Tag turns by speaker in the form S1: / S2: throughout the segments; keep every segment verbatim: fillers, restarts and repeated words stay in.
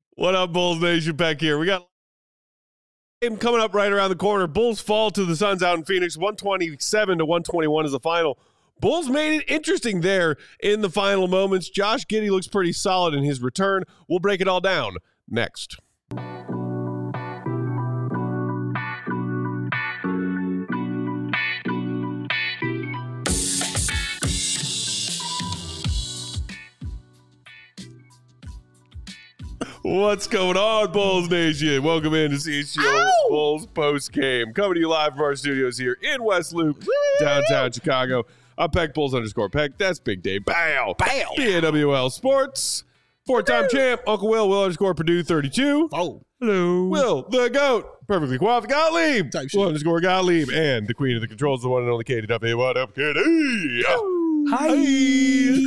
S1: What up, Bulls Nation? Peck here. We got a game coming up right around the corner. Bulls fall to the Suns out in Phoenix. one twenty-seven to one twenty-one is the final. Bulls made it interesting there in the final moments. Josh Giddey looks pretty solid in his return. We'll break it all down next. What's going on, Bulls Nation? Welcome in to C H G O Bulls post game. Coming to you live from our studios here in West Loop, downtown Chicago. I'm Peck Bulls underscore Peck. That's Big Dave. Bow. Bow. B A W L Sports. Four-time champ, Uncle Will, Will underscore Purdue thirty-two.
S2: Oh.
S1: Hello. Will, the GOAT. Perfectly qualified. Gottlieb.
S2: Type shit.
S1: Will underscore Gottlieb. And the queen of the controls, the one and only Katie W. What up, Katie?
S2: Hi.
S1: C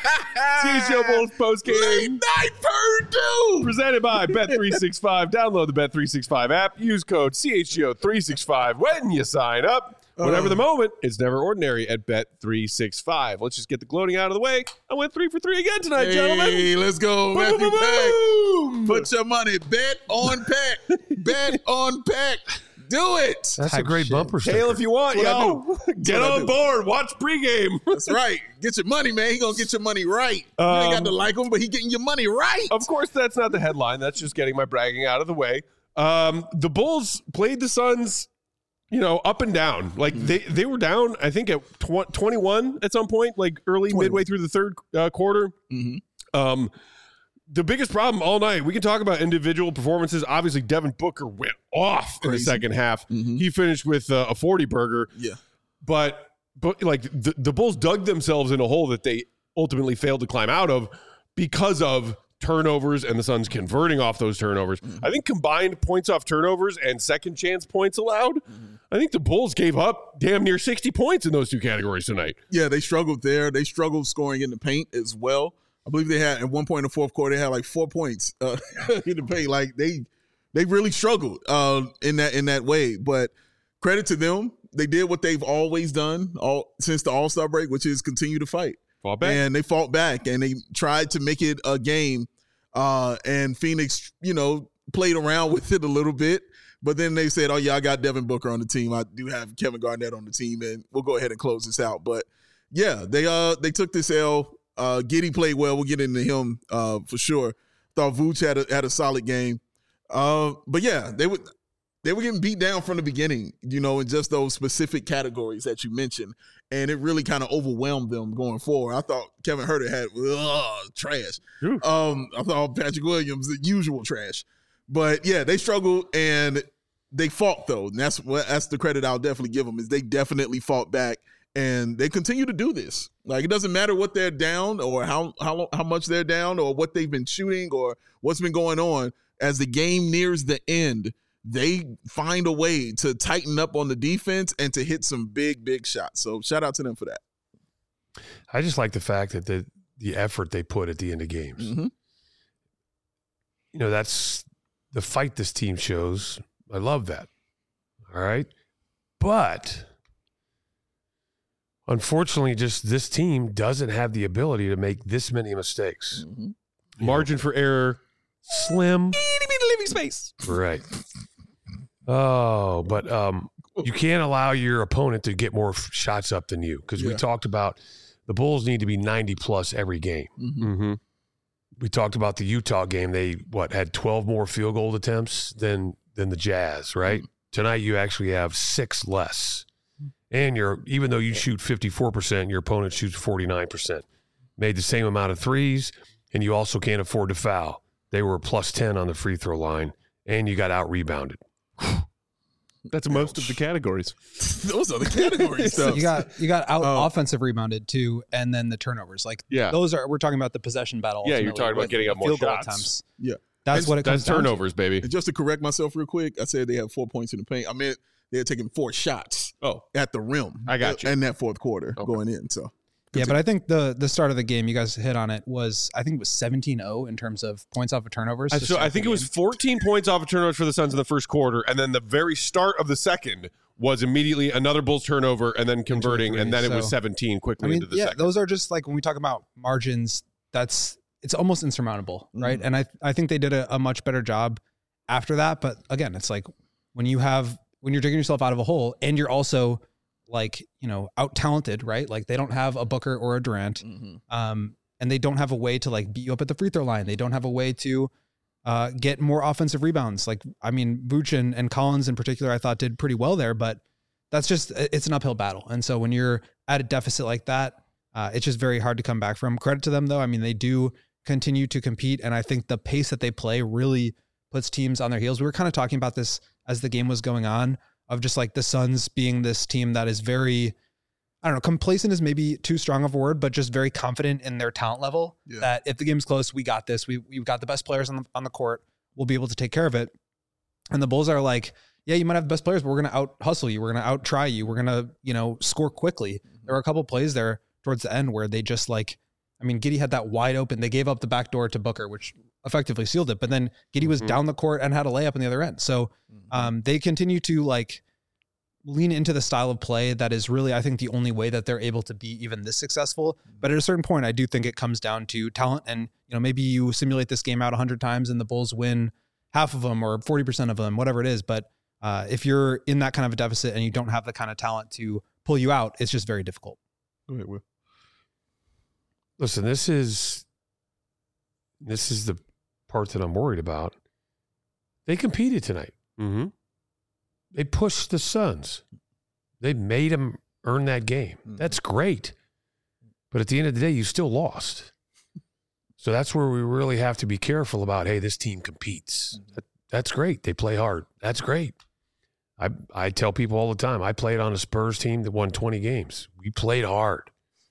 S1: H G O Bulls post game.
S2: Late night Purdue.
S1: Presented by Bet three sixty-five. Download the Bet three sixty-five app. Use code C H G O three sixty-five when you sign up. Whatever the moment, it's never ordinary at Bet three sixty-five. Let's just get the gloating out of the way. I went three for three again tonight,
S2: Hey,
S1: gentlemen.
S2: let's go,
S1: Boom,
S2: Matthew
S1: boom,
S2: Peck.
S1: boom.
S2: Put your money. Bet on Peck. Bet on Peck. Do it.
S3: That's a great bumper sticker.
S1: Tail if you want,
S2: That's what
S1: yo. Get
S2: what I
S1: on
S2: do.
S1: board. Watch pregame.
S2: That's right. Get your money, man. He gonna get your money right. you ain't got
S1: Um,
S2: to like him, but he getting your money right.
S1: Of course, that's not the headline. That's just getting my bragging out of the way. Um, the Bulls played the Suns, you know, up and down. Like
S2: Mm-hmm.
S1: they, they were down, I think, at tw- twenty-one at some point, like early,
S2: twenty-one.
S1: midway through the third uh, quarter.
S2: Mm-hmm.
S1: Um, the biggest problem all night, we can talk about individual performances. Obviously, Devin Booker went off in the
S2: Crazy.
S1: second half.
S2: Mhm.
S1: He finished with uh, a forty burger.
S2: Yeah.
S1: But, but like the, the Bulls dug themselves in a hole that they ultimately failed to climb out of because of turnovers and the Suns converting off those turnovers.
S2: Mm-hmm.
S1: I think combined points off turnovers and second chance points allowed,
S2: Mm-hmm.
S1: I think the Bulls gave up damn near sixty points in those two categories tonight.
S2: Yeah, they struggled there. They struggled scoring in the paint as well. I believe they had at one point in the fourth quarter, they had like four points uh, in the paint. Like they they really struggled uh, in that in that way. But credit to them, they did what they've always done all since the All-Star break, which is continue to fight.
S1: Fall back.
S2: And they fought back and they tried to make it a game. Uh, and Phoenix, you know, played around with it a little bit. But then they said, oh, yeah, I got Devin Booker on the team. I do have Kevin Garnett on the team, and we'll go ahead and close this out. But, yeah, they uh they took this L. Uh, Giddey played well. We'll get into him uh, for sure. Thought Vooch had a, had a solid game. Uh, but, yeah, they would they were getting beat down from the beginning, you know, in just those specific categories that you mentioned. And it really kind of overwhelmed them going forward. I thought Kevin Huerter had ugh, trash.
S1: Ooh.
S2: Um, I thought Patrick Williams, the usual trash. But, yeah, they struggled and they fought, though. And that's what that's the credit I'll definitely give them is they definitely fought back. And they continue to do this. Like, it doesn't matter what they're down or how how how much they're down or what they've been shooting or what's been going on. As the game nears the end, they find a way to tighten up on the defense and to hit some big, big shots. So shout out to them for that.
S3: I just like the fact that the the effort they put at the end of games.
S2: Mm-hmm.
S3: You know, that's the fight this team shows. I love that. All right. But unfortunately, just this team doesn't have the ability to make this many mistakes.
S2: Mm-hmm.
S1: Margin for error, slim.
S2: Living space.
S3: Right. Oh, but um, you can't allow your opponent to get more f- shots up than you because we
S2: Yeah.
S3: talked about the Bulls need to be ninety plus every game.
S2: Mm-hmm.
S1: Mm-hmm.
S3: We talked about the Utah game. They what had twelve more field goal attempts than than the Jazz, right?
S2: Mm-hmm.
S3: Tonight you actually have six less. And you're even though you shoot fifty-four percent, your opponent shoots forty-nine percent. Made the same amount of threes, and you also can't afford to foul. They were plus ten on the free throw line, and you got out rebounded.
S1: That's most of the categories.
S2: Those are the category stuff.
S4: You got you got out
S2: Oh.
S4: offensive rebounded too, and then the turnovers. Like
S1: Yeah.
S4: those are we're talking about the possession battle.
S1: Yeah, you're
S4: ultimately
S1: talking about
S4: with
S1: getting up more
S4: field goal
S1: shots.
S4: attempts.
S2: Yeah.
S4: That's
S2: And
S4: what it comes
S1: That's
S4: down to.
S1: turnovers, baby.
S2: And just to correct myself real quick, I said they had four points in the paint. I meant they had taken four shots
S1: Oh,
S2: at the rim.
S1: I got you.
S2: In that fourth quarter
S1: Okay.
S2: going in. So
S4: Yeah, but I think the the start of the game, you guys hit on it, was I think it was seventeen oh in terms of points off of turnovers.
S1: I,
S4: to
S1: so
S4: start
S1: I
S4: the
S1: think it was
S4: game.
S1: fourteen points off of turnovers for the Suns in the first quarter, and then the very start of the second was immediately another Bulls turnover, and then converting,
S4: three,
S1: and then it was
S4: so-
S1: seventeen quickly
S4: I mean,
S1: into the
S4: yeah,
S1: second.
S4: those are just like when we talk about margins. That's it's almost insurmountable, right?
S2: Mhm.
S4: And I I think they did a, a much better job after that. But again, it's like when you have when you're digging yourself out of a hole and you're also like, you know, out talented, right? Like they don't have a Booker or a Durant,
S2: Mhm.
S4: um, and they don't have a way to like beat you up at the free throw line. They don't have a way to uh, get more offensive rebounds. Like, I mean, Vooch and, and Collins in particular, I thought did pretty well there, but that's just, it's an uphill battle. And so when you're at a deficit like that, uh, it's just very hard to come back from. Credit to them though. I mean, they do continue to compete. And I think the pace that they play really puts teams on their heels. We were kind of talking about this as the game was going on, of just like the Suns being this team that is very, I don't know, complacent is maybe too strong of a word, but just very confident in their talent level.
S2: Yeah.
S4: That if the game's close, we got this. We we've got the best players on the on the court. We'll be able to take care of it. And the Bulls are like, yeah, you might have the best players, but we're going to out hustle you. We're going to out try you. We're going to, you know, score quickly. There were a couple plays there towards the end where they just like, I mean, Giddey had that wide open. They gave up the back door to Booker, which effectively sealed it. But then Giddey was
S3: Mhm.
S4: down the court and had a layup on the other end. So um, they continue to like lean into the style of play that is really, I think, the only way that they're able to be even this successful. But at a certain point, I do think it comes down to talent. And, you know, maybe you simulate this game out a hundred times and the Bulls win half of them or forty percent of them, whatever it is. But uh, if you're in that kind of a deficit and you don't have the kind of talent to pull you out, it's just very difficult.
S2: Go ahead, Will.
S3: Listen, this is this is the part that I'm worried about. They competed tonight.
S1: Mm-hmm.
S3: They pushed the Suns. They made them earn that game.
S2: Mhm.
S3: That's great. But at the end of the day, you still lost. So that's where we really have to be careful about, hey, this team competes. That, that's great. They play hard. That's great. I I tell people all the time, I played on a Spurs team that won twenty games. We played hard.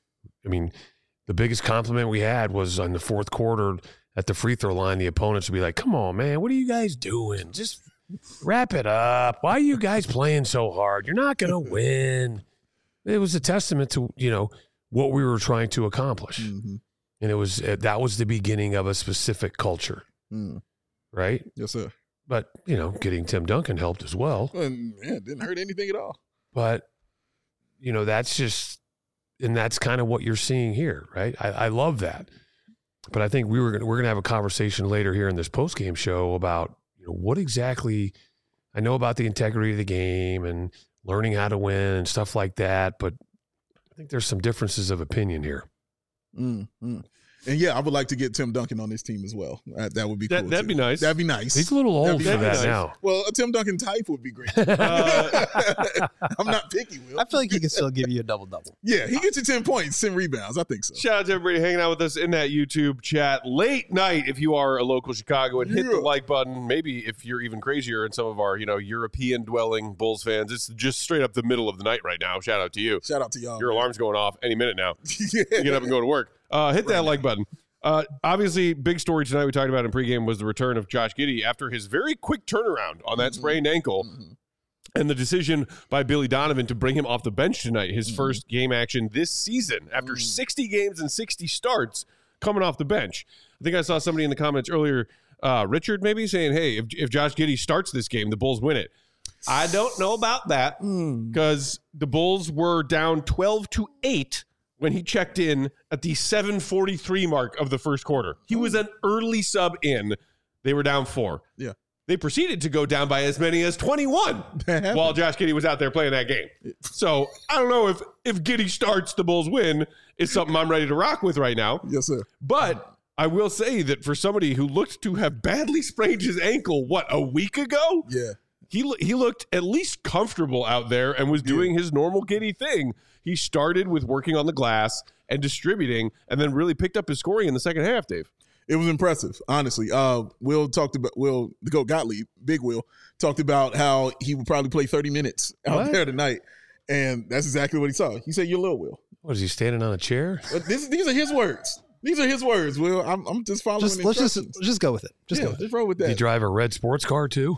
S3: I mean, the biggest compliment we had was on the fourth quarter at the free throw line, the opponents would be like, come on, man, what are you guys doing? Just wrap it up. Why are you guys playing so hard? You're not going to win. It was a testament to, you know, what we were trying to accomplish.
S2: Mhm.
S3: And it was, uh, that was the beginning of a specific culture,
S2: Mm.
S3: right?
S2: Yes, sir.
S3: But, you know, getting Tim Duncan helped as well.
S2: And yeah, it didn't hurt anything at all.
S3: But, you know, that's just, and that's kind of what you're seeing here, right? I, I love that. But I think we were gonna, we're going to have a conversation later here in this post-game show about, you know, what exactly, I know about the integrity of the game and learning how to win and stuff like that, but I think there's some differences of opinion here.
S2: Mm, mm. And yeah, I would like to get Tim Duncan on this team as well. That, that would be
S1: That,
S2: cool.
S1: that'd
S2: too.
S1: be nice.
S2: That'd be nice.
S3: He's a little
S2: That'd
S3: old
S2: be
S3: for that
S1: nice.
S3: now.
S2: Well, a Tim Duncan type would be great.
S1: Uh,
S2: I'm not picky, Will.
S4: I feel like he can still give you a double double.
S2: Yeah, he gets you ten points, ten rebounds. I think so.
S1: Shout out to everybody hanging out with us in that YouTube chat late night. If you are a local Chicagoan, hit the
S2: Yeah.
S1: like button. Maybe if you're even crazier and some of our, you know, European dwelling Bulls fans, it's just straight up the middle of the night right now. Shout out to you.
S2: Shout out to y'all.
S1: Your alarm's going off any minute now.
S2: yeah.
S1: You get up and go to work. Uh, hit that like button. Uh, obviously, big story tonight we talked about in pregame was the return of Josh Giddey after his very quick turnaround on that
S2: Mhm.
S1: sprained ankle.
S2: Mhm.
S1: And the decision by Billy Donovan to bring him off the bench tonight, his
S2: Mhm.
S1: first game action this season after
S2: Mhm.
S1: sixty games and sixty starts coming off the bench. I think I saw somebody in the comments earlier, uh, Richard maybe, saying, hey, if, if Josh Giddey starts this game, the Bulls win it. I don't know about that
S2: Mm.
S1: because the Bulls were down twelve to eight when he checked in at the seven forty-three mark of the first quarter. He was an early sub in. They were down four.
S2: Yeah.
S1: They proceeded to go down by as many as twenty-one
S2: That happened.
S1: while Josh Giddey was out there playing that game. So I don't know if if Giddey starts, the Bulls win is something I'm ready to rock with right now.
S2: Yes, sir.
S1: But I will say that for somebody who looked to have badly sprained his ankle, what, a week ago?
S2: Yeah.
S1: He lo- he looked at least comfortable out there and was doing his normal Giddey thing. He started with working on the glass and distributing, and then really picked up his scoring in the second half, Dave.
S2: It was impressive, honestly. Uh, Will talked about Will the Goat Gottlieb, Big Will talked about how he would probably play thirty minutes out
S3: What?
S2: there tonight, and that's exactly what he saw. He said, "You're little Will."
S3: What is he standing on a chair?
S2: But this, these are his words. These are his words. Will, I'm, I'm just following.
S4: Just let's just
S2: instructions.
S4: just go with it. Just
S2: yeah,
S4: go with it.
S2: just roll with
S3: Did he
S2: that.
S3: drive a red sports car too?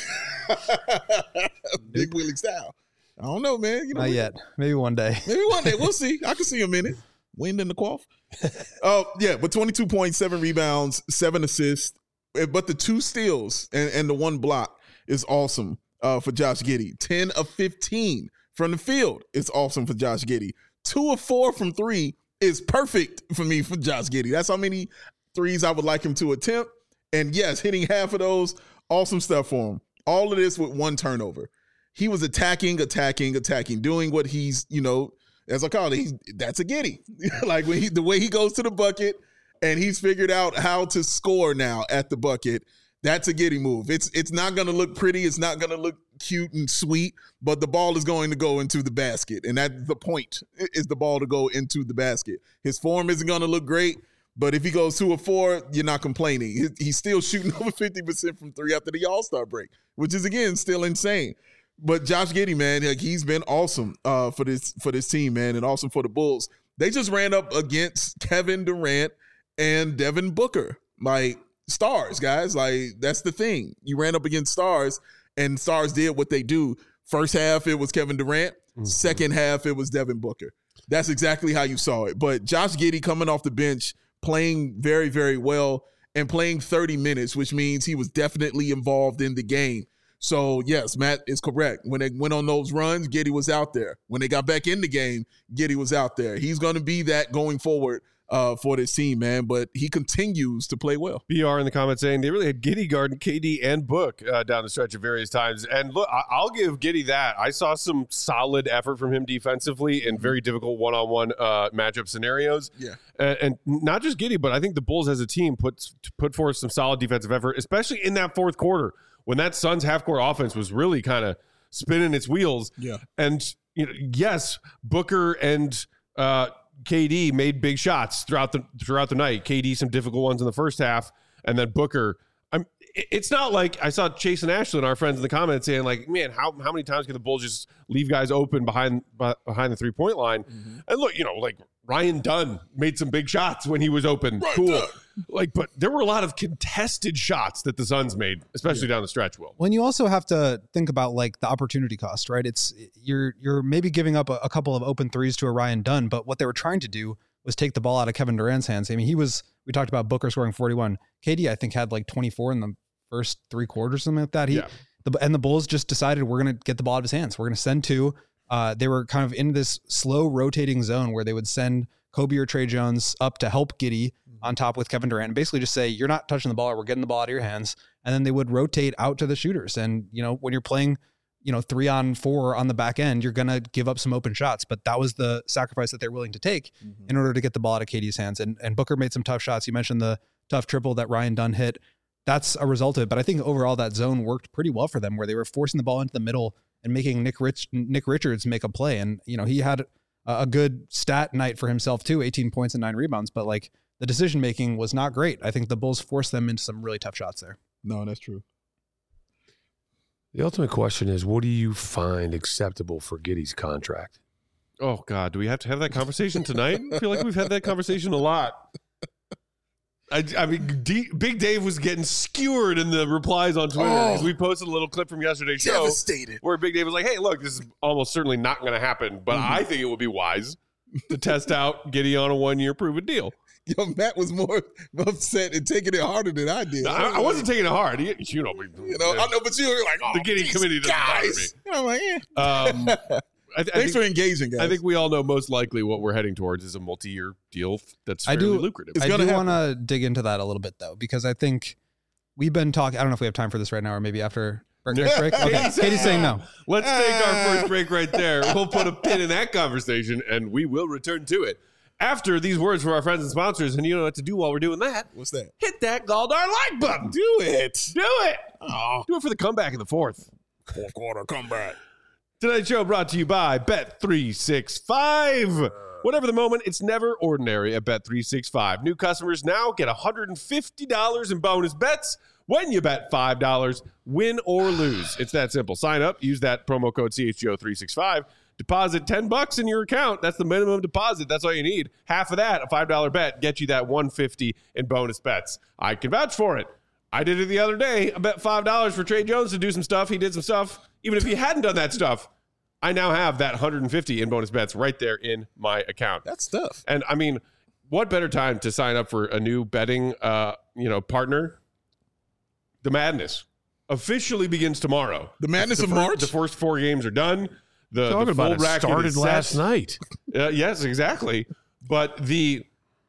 S2: Big Willie style. I don't know, man. You know,
S4: Not
S2: we-
S4: yet. Maybe one day.
S2: Maybe one day we'll see. I can see him in it. Wind in the quaff. Oh yeah, but twenty-two points, seven rebounds, seven assists. Eh, But the two steals and, and the one block is awesome uh, for Josh Giddey. ten of fifteen from the field is awesome for Josh Giddey. Two of four from three is perfect for me for Josh Giddey. That's how many threes I would like him to attempt. And yes, hitting half of those, awesome stuff for him. All of this with one turnover. He was attacking, attacking, attacking, doing what he's, you know, as I call it, he's, that's a Giddey. Like when he, the way he goes to the bucket and he's figured out how to score now at the bucket, that's a Giddey move. It's it's not going to look pretty. It's not going to look cute and sweet, but the ball is going to go into the basket. And that's the point, is the ball to go into the basket. His form isn't going to look great, but if he goes two or four, you're not complaining. He's still shooting over fifty percent from three after the All-Star break, which is, again, still insane. But Josh Giddey, man, like, he's been awesome uh, for this for this team, man, and awesome for the Bulls. They just ran up against Kevin Durant and Devin Booker, like stars, guys. Like, that's the thing. You ran up against stars, and stars did what they do. First half, it was Kevin Durant. Mm-hmm. Second half, it was Devin Booker. That's exactly how you saw it. But Josh Giddey coming off the bench, playing very, very well, and playing thirty minutes, which means he was definitely involved in the game. So, yes, Matt is correct. When they went on those runs, Giddey was out there. When they got back in the game, Giddey was out there. He's going to be that going forward uh, for this team, man. But he continues to play well.
S1: B R in the comments saying they really had Giddey guarding K D and Book uh, down the stretch at various times. And look, I- I'll give Giddey that. I saw some solid effort from him defensively in very difficult one-on-one uh, matchup scenarios.
S2: Yeah.
S1: And, and not just Giddey, but I think the Bulls as a team put, put forth some solid defensive effort, especially in that fourth quarter, when that Suns half-court offense was really kind of spinning its wheels.
S2: Yeah.
S1: And, you know, yes, Booker and uh, K D made big shots throughout the throughout the night. K D some difficult ones in the first half, and then Booker. I'm. It's not like I saw Chase and Ashlyn, our friends in the comments, saying like, "Man, how how many times can the Bulls just leave guys open behind behind the three point line?" Mm-hmm. And look, you know, like Ryan Dunn made some big shots when he was open. Right cool. There. Like, but there were a lot of contested shots that the Suns made, especially yeah. down the stretch. Will.
S4: When you also have to think about like the opportunity cost, right? It's you're you're maybe giving up a, a couple of open threes to a Ryan Dunn, but what they were trying to do was take the ball out of Kevin Durant's hands. I mean, he was. We talked about Booker scoring forty-one. K D, I think, had like twenty-four in the first three quarters, something like that. He,
S1: yeah.
S4: the, and the Bulls just decided we're going to get the ball out of his hands. We're going to send two. Uh, they were kind of in this slow rotating zone where they would send Kobe or Trey Jones up to help Giddey on top with Kevin Durant and basically just say, you're not touching the ball, or we're getting the ball out of your hands. And then they would rotate out to the shooters. And, you know, when you're playing, you know, three on four on the back end, you're going to give up some open shots, but that was the sacrifice that they're willing to take mm-hmm. in order to get the ball out of K D's hands. And, and Booker made some tough shots. You mentioned the tough triple that Ryan Dunn hit. That's a result of it. But I think overall that zone worked pretty well for them, where they were forcing the ball into the middle and making Nick Rich, Nick Richards make a play. And, you know, he had a good stat night for himself too, eighteen points and nine rebounds, but like the decision-making was not great. I think the Bulls forced them into some really tough shots there.
S2: No, that's true.
S3: The ultimate question is, what do you find acceptable for Giddey's contract?
S1: Oh, God, do we have to have that conversation tonight? I feel like we've had that conversation a lot. I, I mean, D, Big Dave was getting skewered in the replies on Twitter because oh, we posted a little clip from yesterday's show
S2: devastated.
S1: Where Big Dave was like, hey, look, this is almost certainly not going to happen, but mm-hmm. I think it would be wise to test out Giddey on a one-year proven deal.
S2: Yo, Matt was more upset and taking it harder than I did.
S1: No, I, I wasn't taking it hard. You, you know,
S2: you know, I know, but you were like, oh,
S1: the Giddey committee doesn't bother me.
S2: I'm like, yeah.
S1: Um, I, I
S2: Thanks
S1: think,
S2: for engaging, guys.
S1: I think we all know most likely what we're heading towards is a multi-year deal that's fairly
S4: I do,
S1: lucrative.
S4: I do want to dig into that a little bit, though, because I think we've been talking. I don't know if we have time for this right now, or maybe after break. break, break. Okay.
S1: Katie's,
S4: Katie's saying no.
S1: Let's take our first break right there. We'll put a pin in that conversation, and we will return to it after these words from our friends and sponsors. And you know what to do while we're doing that?
S2: What's that?
S1: Hit that Galdar like button.
S2: Do it.
S1: Do it. Oh, do it for the comeback in the fourth.
S2: Fourth quarter comeback.
S1: Tonight's show brought to you by Bet three sixty-five. Whatever the moment, it's never ordinary at Bet three sixty-five. New customers now get one hundred fifty dollars in bonus bets when you bet five dollars, win or lose. It's that simple. Sign up, use that promo code C H G O three sixty-five. Deposit ten bucks in your account. That's the minimum deposit. That's all you need. Half of that, a five dollar bet, get you that one hundred fifty dollars in bonus bets. I can vouch for it. I did it the other day. I bet five dollars for Trey Jones to do some stuff. He did some stuff. Even if he hadn't done that stuff, I now have that one hundred fifty in bonus bets right there in my account.
S2: That's tough.
S1: And I mean, what better time to sign up for a new betting, uh, you know, partner? The madness officially begins tomorrow.
S2: The madness
S1: the
S2: of
S1: first,
S2: March.
S1: The first four games are done. The,
S3: Talking
S1: the full
S3: about it
S1: bracket
S3: started
S1: is
S3: last
S1: set.
S3: night.
S1: Uh, yes, exactly. But the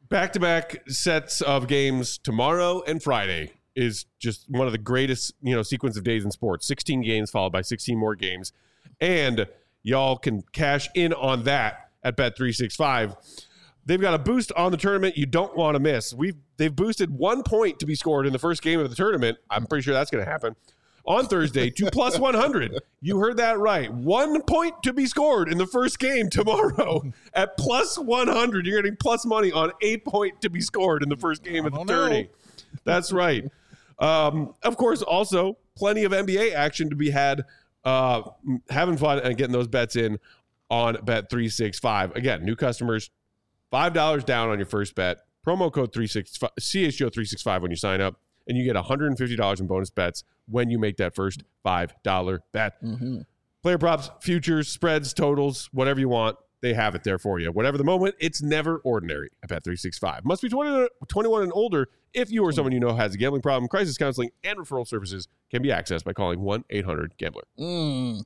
S1: back-to-back sets of games tomorrow and Friday is just one of the greatest, you know, sequence of days in sports. sixteen games followed by sixteen more games. And y'all can cash in on that at Bet three sixty-five. They've got a boost on the tournament you don't want to miss. We've They've boosted one point to be scored in the first game of the tournament. I'm pretty sure that's going to happen. On Thursday to plus one hundred. You heard that right. One point to be scored in the first game tomorrow at plus one hundred. You're getting plus money on a point to be scored in the first game of the tourney. That's right. Um, of course, also plenty of N B A action to be had. Uh, having fun and getting those bets in on Bet three sixty-five. Again, new customers, five dollars down on your first bet. Promo code three sixty-five, C H G O three sixty-five when you sign up. And you get one hundred fifty dollars in bonus bets when you make that first five dollar bet. Mm-hmm. Player props, futures, spreads, totals, whatever you want, they have it there for you. Whatever the moment, it's never ordinary at Bet three sixty-five. Must be twenty, twenty-one and older if you or someone you know has a gambling problem. Crisis counseling and referral services can be accessed by calling one eight hundred gambler.
S2: Mm.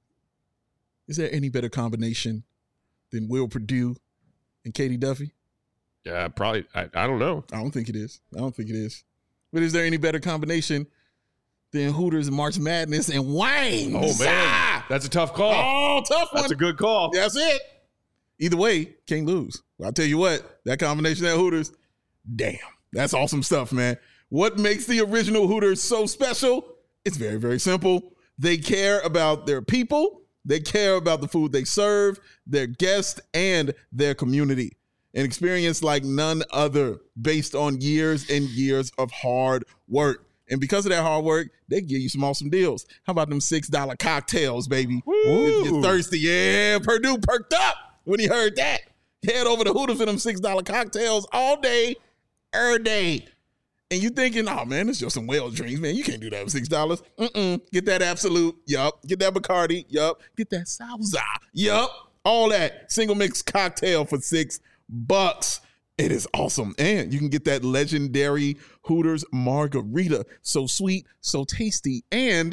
S2: Is there any better combination than Will Perdue and Katie Duffy?
S1: Yeah, probably. I, I don't know.
S2: I don't think it is. I don't think it is. But is there any better combination than Hooters and March Madness and Wayne?
S1: Oh, man. Ah! That's a tough call.
S2: Oh, tough one.
S1: That's a good call.
S2: That's it. Either way, can't lose. Well, I'll tell you what, that combination at Hooters, damn, that's awesome stuff, man. What makes the original Hooters so special? It's very, very simple. They care about their people. They care about the food they serve, their guests, and their community. An experience like none other based on years and years of hard work. And because of that hard work, they give you some awesome deals. How about them six dollar cocktails, baby? Woo. If you're thirsty, yeah, Purdue perked up when he heard that. Head over to Hooters for them six dollar cocktails all day, every day. And you thinking, oh, man, it's just some whale drinks, man. You can't do that for six dollars. Mm-mm. Get that Absolute. Yup. Get that Bacardi. Yup. Get that Salsa. Yup. All that. Single mix cocktail for six bucks. It is awesome. And you can get that legendary Hooters margarita. So sweet, so tasty, and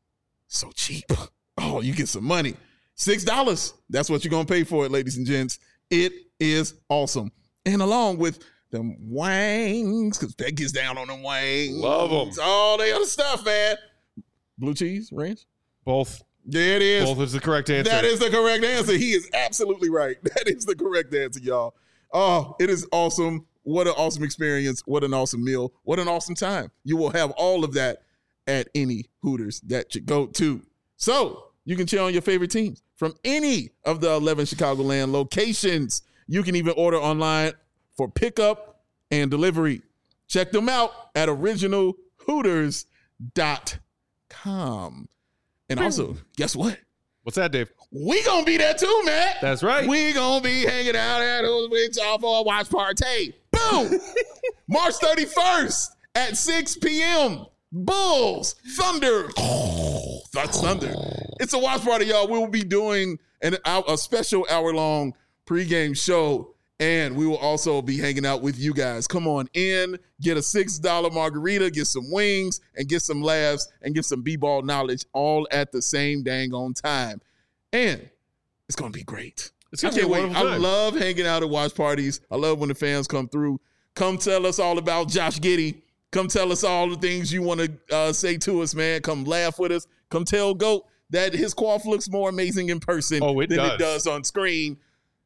S2: so cheap. Oh, you get some money. six dollars. That's what you're going to pay for it, ladies and gents. It is awesome. And along with them wangs, because Beck gets down on them wangs.
S1: Love them.
S2: All the other stuff, man. Blue cheese, ranch?
S1: Both.
S2: There it is.
S1: Both is the correct answer.
S2: That is the correct answer. He is absolutely right. That is the correct answer, y'all. Oh, it is awesome. What an awesome experience. What an awesome meal. What an awesome time. You will have all of that at any Hooters that you go to. So you can cheer on your favorite teams from any of the eleven Chicagoland locations. You can even order online for pickup and delivery. Check them out at original hooters dot com. And also, guess what?
S1: What's that, Dave?
S2: We gonna be there too, man.
S1: That's right.
S2: We gonna be hanging out at Hooters with y'all for a watch party. Boom! March thirty-first at six p.m. Bulls, Thunder. Oh, that's Thunder. It's a watch party, y'all. We will be doing an, a special hour-long pregame show, and we will also be hanging out with you guys. Come on in, get a six dollar margarita, get some wings, and get some laughs, and get some b-ball knowledge all at the same dang on time. And it's going to be great.
S1: It's
S2: I
S1: gonna
S2: can't
S1: be a
S2: wait.
S1: wonderful
S2: I
S1: time.
S2: love hanging out at watch parties. I love when the fans come through. Come tell us all about Josh Giddey. Come tell us all the things you want to uh, say to us, man. Come laugh with us. Come tell Goat that his quaff looks more amazing in person
S1: Oh, it
S2: than
S1: does.
S2: it does on screen.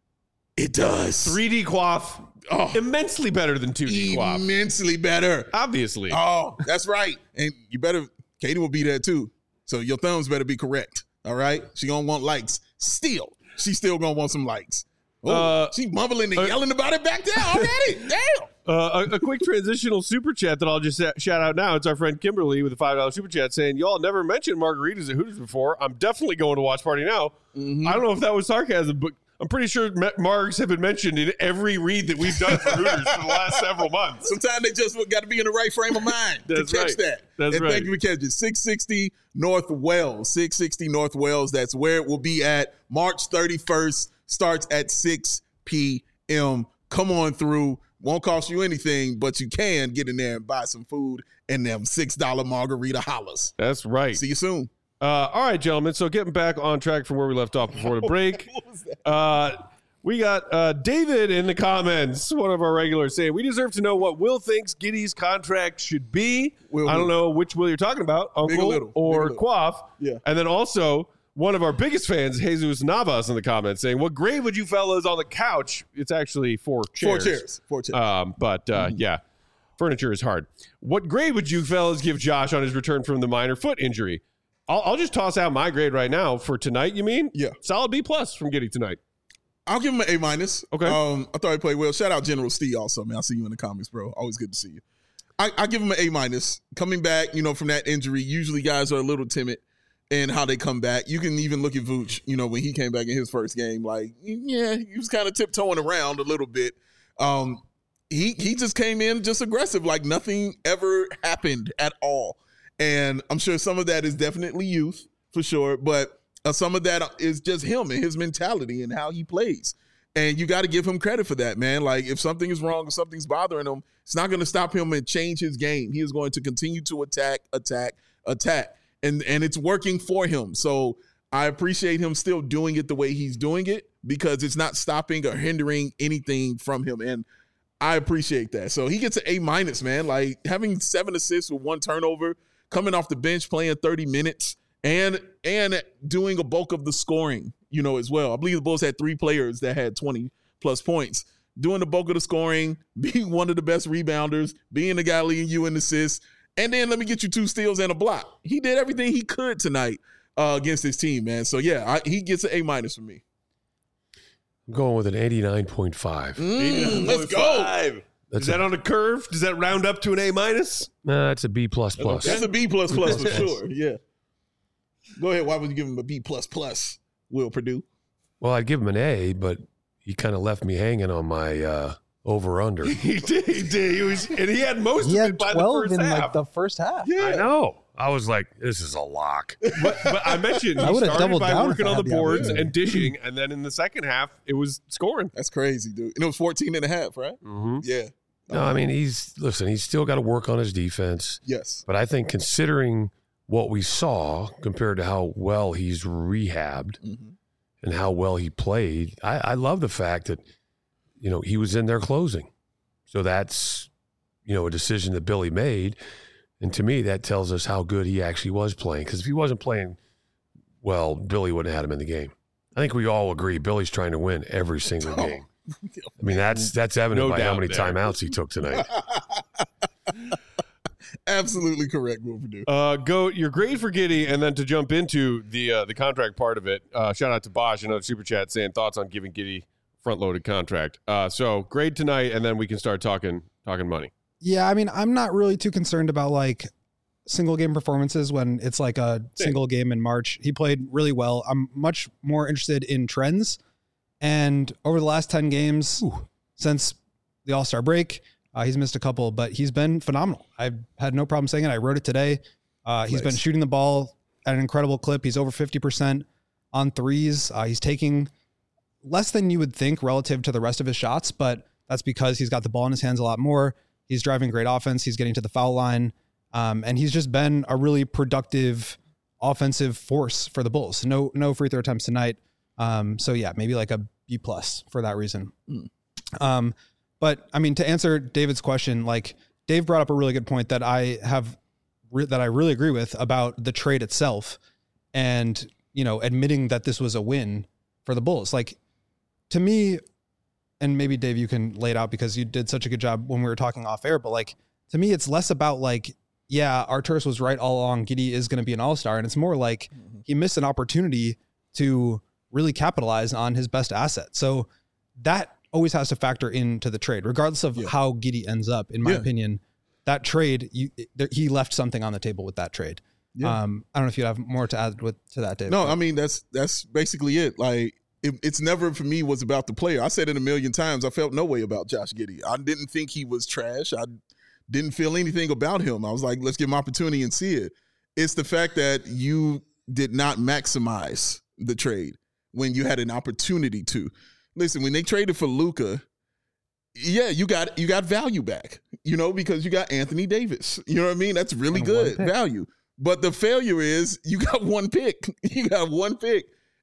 S2: It does.
S1: three D quaff,
S2: Oh.
S1: immensely better than two D quaff.
S2: Immensely better.
S1: Obviously.
S2: Oh, that's right. And you better, Katie will be there too. So your thumbs better be correct. All right. She gonna want likes. Still, she's still gonna want some likes. Oh,
S1: Uh,
S2: she's mumbling and
S1: uh,
S2: yelling about it back there already. Damn.
S1: Uh, a, a quick transitional super chat that I'll just sa- shout out now. It's our friend Kimberly with a five dollar super chat saying, y'all never mentioned margaritas at Hooters before. I'm definitely going to watch party now.
S2: Mm-hmm.
S1: I don't know if that was sarcasm, but I'm pretty sure ma- margs have been mentioned in every read that we've done for Hooters for the last several months.
S2: Sometimes they just got to be in the right frame of mind
S1: That's
S2: to catch
S1: right.
S2: that.
S1: That's
S2: and
S1: right.
S2: thank you for catching it. six sixty North Wells. six sixty North Wells. That's where it will be at. March thirty-first. Starts at six p.m. Come on through. Won't cost you anything, but you can get in there and buy some food and them six dollar margarita hollers.
S1: That's right.
S2: See you soon.
S1: Uh, all right, gentlemen. So getting back on track from where we left off before the break. Uh, We got uh, David in the comments, one of our regulars, saying, we deserve to know what Will thinks Giddey's contract should be.
S2: Will
S1: I don't
S2: who?
S1: know which Will you're talking about,
S2: Big or
S1: Uncle
S2: little?
S1: or
S2: Big or little?
S1: Quaff.
S2: Yeah.
S1: And then also one of our biggest fans, Jesus Navas, in the comments saying, what grade would you fellas on the couch? It's actually four chairs.
S2: Four chairs. Four chairs.
S1: Um, but uh,
S2: Mm-hmm.
S1: yeah, furniture is hard. What grade would you fellas give Josh on his return from the minor foot injury? I'll, I'll just toss out my grade right now for tonight, you mean?
S2: Yeah.
S1: Solid B plus from Giddey tonight.
S2: I'll give him an A minus.
S1: Okay.
S2: Um, I thought he played well. Shout out General Steve also, man. I see you in the comments, bro. Always good to see you. I, I give him an A minus. Coming back, you know, from that injury, usually guys are a little timid in how they come back. You can even look at Vooch, you know, when he came back in his first game, like, yeah, he was kind of tiptoeing around a little bit. Um, he he just came in just aggressive, like nothing ever happened at all. And I'm sure some of that is definitely youth, for sure, but Uh, some of that is just him and his mentality and how he plays. And you got to give him credit for that, man. Like, if something is wrong or something's bothering him, it's not going to stop him and change his game. He is going to continue to attack, attack, attack. And, and it's working for him. So I appreciate him still doing it the way he's doing it because it's not stopping or hindering anything from him. And I appreciate that. So he gets an A minus, man. Like, having seven assists with one turnover, coming off the bench, playing thirty minutes, And and doing a bulk of the scoring, you know, as well. I believe the Bulls had three players that had twenty plus points. Doing the bulk of the scoring, being one of the best rebounders, being the guy leading you in assists, and then let me get you two steals and a block. He did everything he could tonight uh, against his team, man. So yeah, I, he gets an A minus from me.
S3: I'm going with an eighty-nine point five.
S2: Mm, let's go.
S1: Is that on a curve? Does that round up to an A minus?
S3: Nah, it's a B plus plus.
S2: That's a B plus plus for
S3: Yes.
S2: sure. Yeah. Go ahead. Why would you give him a B plus plus, Will Purdue?
S3: Well, I'd give him an A, but he kind of left me hanging on my uh, over under.
S1: He did. He did. He was, and he had most
S4: He
S1: of
S4: had
S1: it by the
S4: twelve
S1: first
S4: in
S1: half.
S4: like the first half.
S1: yeah.
S3: I know. I was like, this is a lock.
S1: But, but I mentioned
S4: I
S1: he
S4: would've
S1: started
S4: doubled
S1: by
S4: down
S1: working
S4: if I
S1: on the
S4: had the
S1: boards
S4: opportunity.
S1: and dishing, and then in the second half, it was scoring.
S2: That's crazy, dude. And it was fourteen and a half, right?
S3: Mm-hmm.
S2: Yeah.
S3: No, I mean, he's, listen, he's still got to work on his defense.
S2: Yes.
S3: But I think considering what we saw compared to how well he's rehabbed
S2: Mm-hmm.
S3: and how well he played, I, I love the fact that, you know, he was in there closing. So that's, you know, a decision that Billy made. And to me, that tells us how good he actually was playing. Because if he wasn't playing well, Billy wouldn't have had him in the game. I think we all agree Billy's trying to win every single
S2: Oh.
S3: game. I mean, that's that's evident
S1: No
S3: by how
S1: doubt
S3: many
S1: there.
S3: timeouts he took tonight.
S2: Absolutely correct, Will Purdue.
S1: Uh, go your grade for Giddey, and then to jump into the uh, the contract part of it. Uh, shout out to Bosch, another super chat saying thoughts on giving Giddey front loaded contract. Uh, so grade tonight, and then we can start talking talking money.
S4: Yeah, I mean, I'm not really too concerned about like single game performances when it's like a single game in March. He played really well. I'm much more interested in trends. And over the last ten games Ooh. since the All-Star break, uh, he's missed a couple, but he's been phenomenal. I've had no problem saying it. I wrote it today. Uh, he's
S2: Nice.
S4: been shooting the ball at an incredible clip. He's over fifty percent on threes. Uh, he's taking less than you would think relative to the rest of his shots, but that's because he's got the ball in his hands a lot more. He's driving great offense. He's getting to the foul line. Um, and he's just been a really productive offensive force for the Bulls. No, no free throw attempts tonight. Um, so yeah, maybe like a B plus for that reason.
S2: Mm.
S4: Um, but I mean, to answer David's question, like Dave brought up a really good point that I have re- that I really agree with about the trade itself and, you know, admitting that this was a win for the Bulls. Like to me, and maybe Dave, you can lay it out because you did such a good job when we were talking off air, but like, to me, it's less about like, yeah, Arturas was right all along. Giddey is going to be an all-star. And it's more like mm-hmm. he missed an opportunity to really capitalize on his best asset. So that always has to factor into the trade, regardless of
S2: yeah.
S4: how Giddey ends up. In my
S2: yeah.
S4: opinion, that trade, you, there, he left something on the table with that trade.
S2: Yeah.
S4: Um, I don't know if you have more to add with to that, Dave.
S2: No, I mean, that's that's basically it. Like, it, it's never for me was about the player. I said it a million times. I felt no way about Josh Giddey. I didn't think he was trash. I didn't feel anything about him. I was like, let's give him opportunity and see it. It's the fact that you did not maximize the trade when you had an opportunity to. Listen, when they traded for Luka, yeah, you got you got value back, you know, because you got Anthony Davis. You know what I mean? That's really
S4: And
S2: good
S4: one pick.
S2: value. But the failure is you got one pick. You got one pick.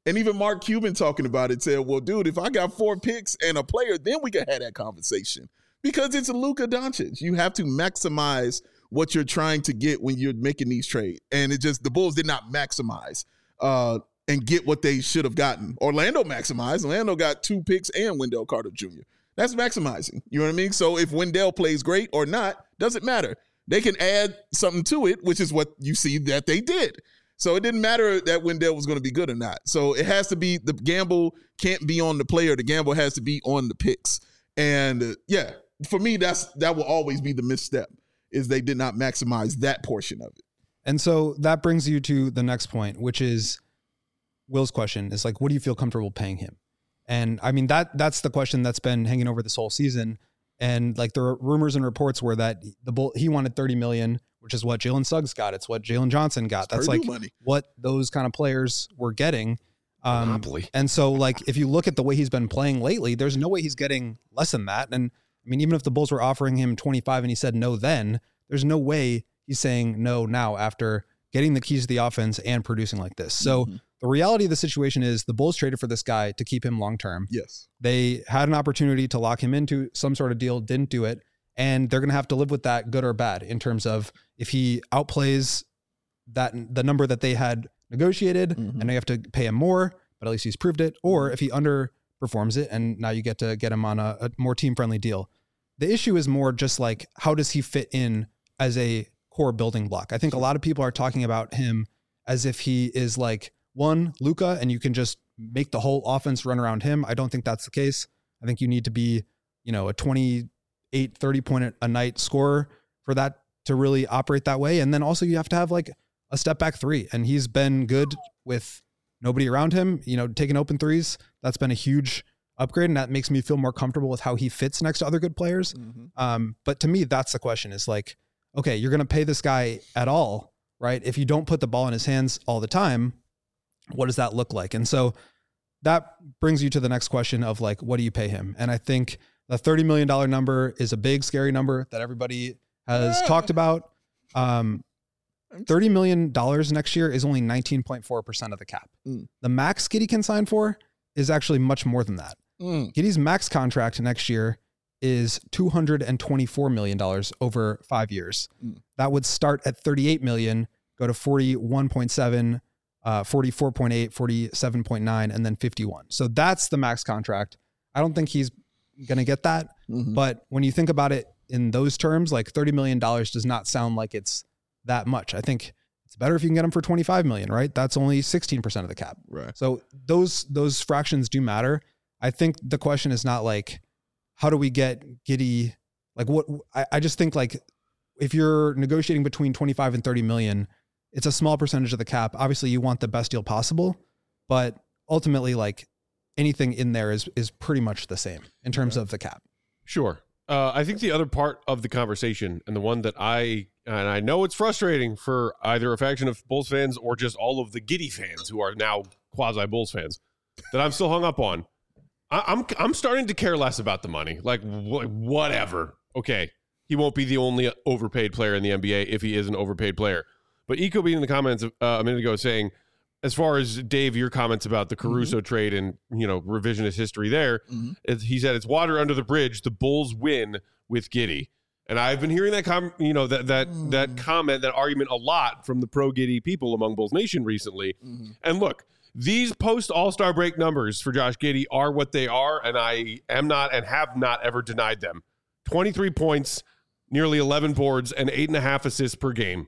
S2: And even Mark Cuban talking about it said, well, dude, if I got four picks and a player, then we can have that conversation. Because it's Luka Doncic. You have to maximize what you're trying to get when you're making these trades. And it just, the Bulls did not maximize uh, and get what they should have gotten. Orlando maximized. Orlando got two picks and Wendell Carter Junior That's maximizing. You know what I mean? So if Wendell plays great or not, doesn't matter. They can add something to it, which is what you see that they did. So it didn't matter that Wendell was going to be good or not. So it has to be, the gamble can't be on the player. The gamble has to be on the picks. And uh, yeah, for me, that's that will always be the misstep, is they did not maximize that portion of it.
S4: And so that brings you to the next point, which is Will's question is like, what do you feel comfortable paying him? And I mean, that that's the question that's been hanging over this whole season. And like the rumors and reports were that the Bull, he wanted thirty million, which is what Jalen Suggs got. It's what Jalen Johnson got.
S2: It's
S4: that's
S2: Purdue
S4: like
S2: money.
S4: What those kind of players were getting. Um,
S3: Monopoly.
S4: and so like, if you look at the way he's been playing lately, there's no way he's getting less than that. And I mean, even if the Bulls were offering him twenty-five and he said no then, there's no way he's saying no now after getting the keys to the offense and producing like this. So
S2: Mm-hmm.
S4: the reality of the situation is the Bulls traded for this guy to keep him long-term.
S2: Yes.
S4: They had an opportunity to lock him into some sort of deal, didn't do it. And they're going to have to live with that, good or bad, in terms of if he outplays that the number that they had negotiated
S2: Mhm.
S4: and they have to pay him more, but at least he's proved it, or if he underperforms it and now you get to get him on a, a more team-friendly deal. The issue is more just like, how does he fit in as a core building block? I think a lot of people are talking about him as if he is like one Luka and you can just make the whole offense run around him. I don't think that's the case. I think you need to be, you know, a twenty-eight, thirty point a night scorer for that to really operate that way. And then also you have to have like a step back three, and he's been good with nobody around him, you know, taking open threes. That's been a huge upgrade, and that makes me feel more comfortable with how he fits next to other good players.
S2: Mm-hmm.
S4: Um, but to me, that's the question, is like, okay, you're going to pay this guy at all, right? If you don't put the ball in his hands all the time, what does that look like? And so that brings you to the next question of like, what do you pay him? And I think the thirty million dollars number is a big, scary number that everybody has
S2: Yeah.
S4: talked about. Um, thirty million dollars next year is only nineteen point four percent of the cap.
S2: Mm.
S4: The max Giddey can sign for is actually much more than that.
S2: Mm.
S4: Giddey's max contract next year is two hundred twenty-four million dollars over five years.
S2: Mm.
S4: That would start at thirty-eight million, go to forty-one point seven, uh, forty-four point eight, forty-seven point nine, and then fifty-one. So that's the max contract. I don't think he's going to get that.
S2: Mhm.
S4: But when you think about it in those terms, like thirty million dollars does not sound like it's that much. I think it's better if you can get him for twenty-five million dollars, right? That's only sixteen percent of the cap.
S2: Right.
S4: So those those fractions do matter. I think the question is not like, how do we get Giddey? Like what I, I just think like if you're negotiating between twenty-five and thirty million, it's a small percentage of the cap. Obviously you want the best deal possible, but ultimately like anything in there is is pretty much the same in terms of the cap.
S1: Sure. Uh, I think the other part of the conversation, and the one that I, and I know it's frustrating for either a faction of Bulls fans or just all of the Giddey fans who are now quasi Bulls fans, that I'm still hung up on. I, I'm I'm starting to care less about the money. Like wh- whatever. Okay, he won't be the only overpaid player in the N B A if he is an overpaid player. But Eco being in the comments uh, a minute ago saying, as far as Dave, your comments about the Caruso mm-hmm. trade and, you know, revisionist history there, mm-hmm. it, he said it's water under the bridge. The Bulls win with Giddey. And I've been hearing that, com- you know, that that mm-hmm. that comment, that argument a lot from the pro Giddey people among Bulls Nation recently. Mm-hmm. And look, these post All-Star break numbers for Josh Giddey are what they are, and I am not and have not ever denied them. twenty-three points, nearly eleven boards, and eight and a half assists per game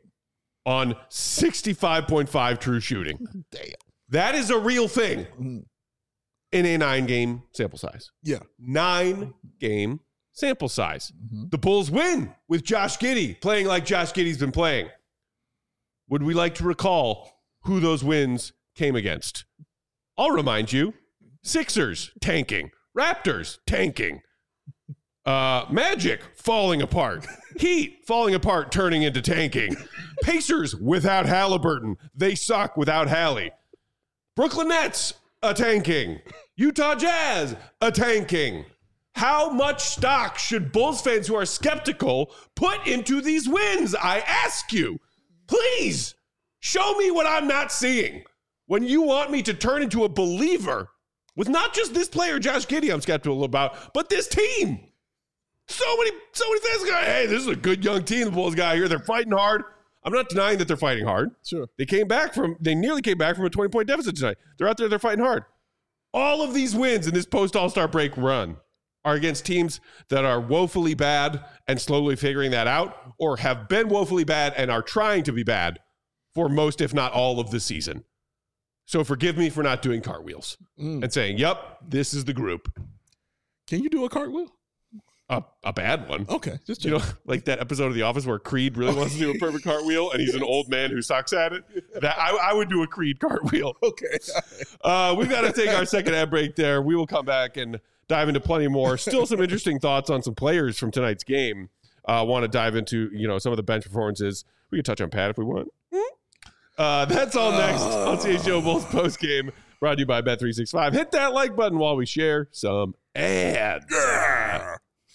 S1: on sixty-five point five true shooting.
S2: Damn.
S1: That is a real thing
S2: Mm-hmm.
S1: in a nine-game sample size.
S2: Yeah.
S1: Nine-game sample size.
S2: Mm-hmm.
S1: The Bulls win with Josh Giddey playing like Josh Giddey's been playing. Would we like to recall who those wins came against? I'll remind you. Sixers tanking. Raptors tanking. Uh, Magic falling apart. Heat falling apart, turning into tanking. Pacers without Halliburton. They suck without Hallie. Brooklyn Nets a tanking. Utah Jazz a tanking. How much stock should Bulls fans who are skeptical put into these wins? I ask you. Please show me what I'm not seeing. when you want me to turn into a believer with not just this player, Josh Giddey, I'm skeptical about, but this team. So many, so many fans go, hey, this is a good young team the Bulls got here. They're fighting hard. I'm not denying that they're fighting hard.
S2: Sure.
S1: They came back from, they nearly came back from a twenty-point deficit tonight. They're out there, they're fighting hard. All of these wins in this post-All-Star break run are against teams that are woefully bad and slowly figuring that out, or have been woefully bad and are trying to be bad for most, if not all, of the season. So forgive me for not doing cartwheels mm. and saying, yep, this is the group.
S2: Can you do a cartwheel?
S1: A, a bad one.
S2: Okay. Just
S1: you know, like that episode of The Office where Creed really wants to do a perfect cartwheel and he's an old man who sucks at it. That I, I would do a Creed cartwheel.
S2: Okay.
S1: Uh, we've got to take our second ad break there. We will come back and dive into plenty more. Still some interesting thoughts on some players from tonight's game. Uh, want to dive into, you know, some of the bench performances. We can touch on Pat if we want. Uh, that's all next on C H G O Bulls post game, brought to you by Bet three sixty-five. Hit that like button while we share some ads.
S2: Yeah.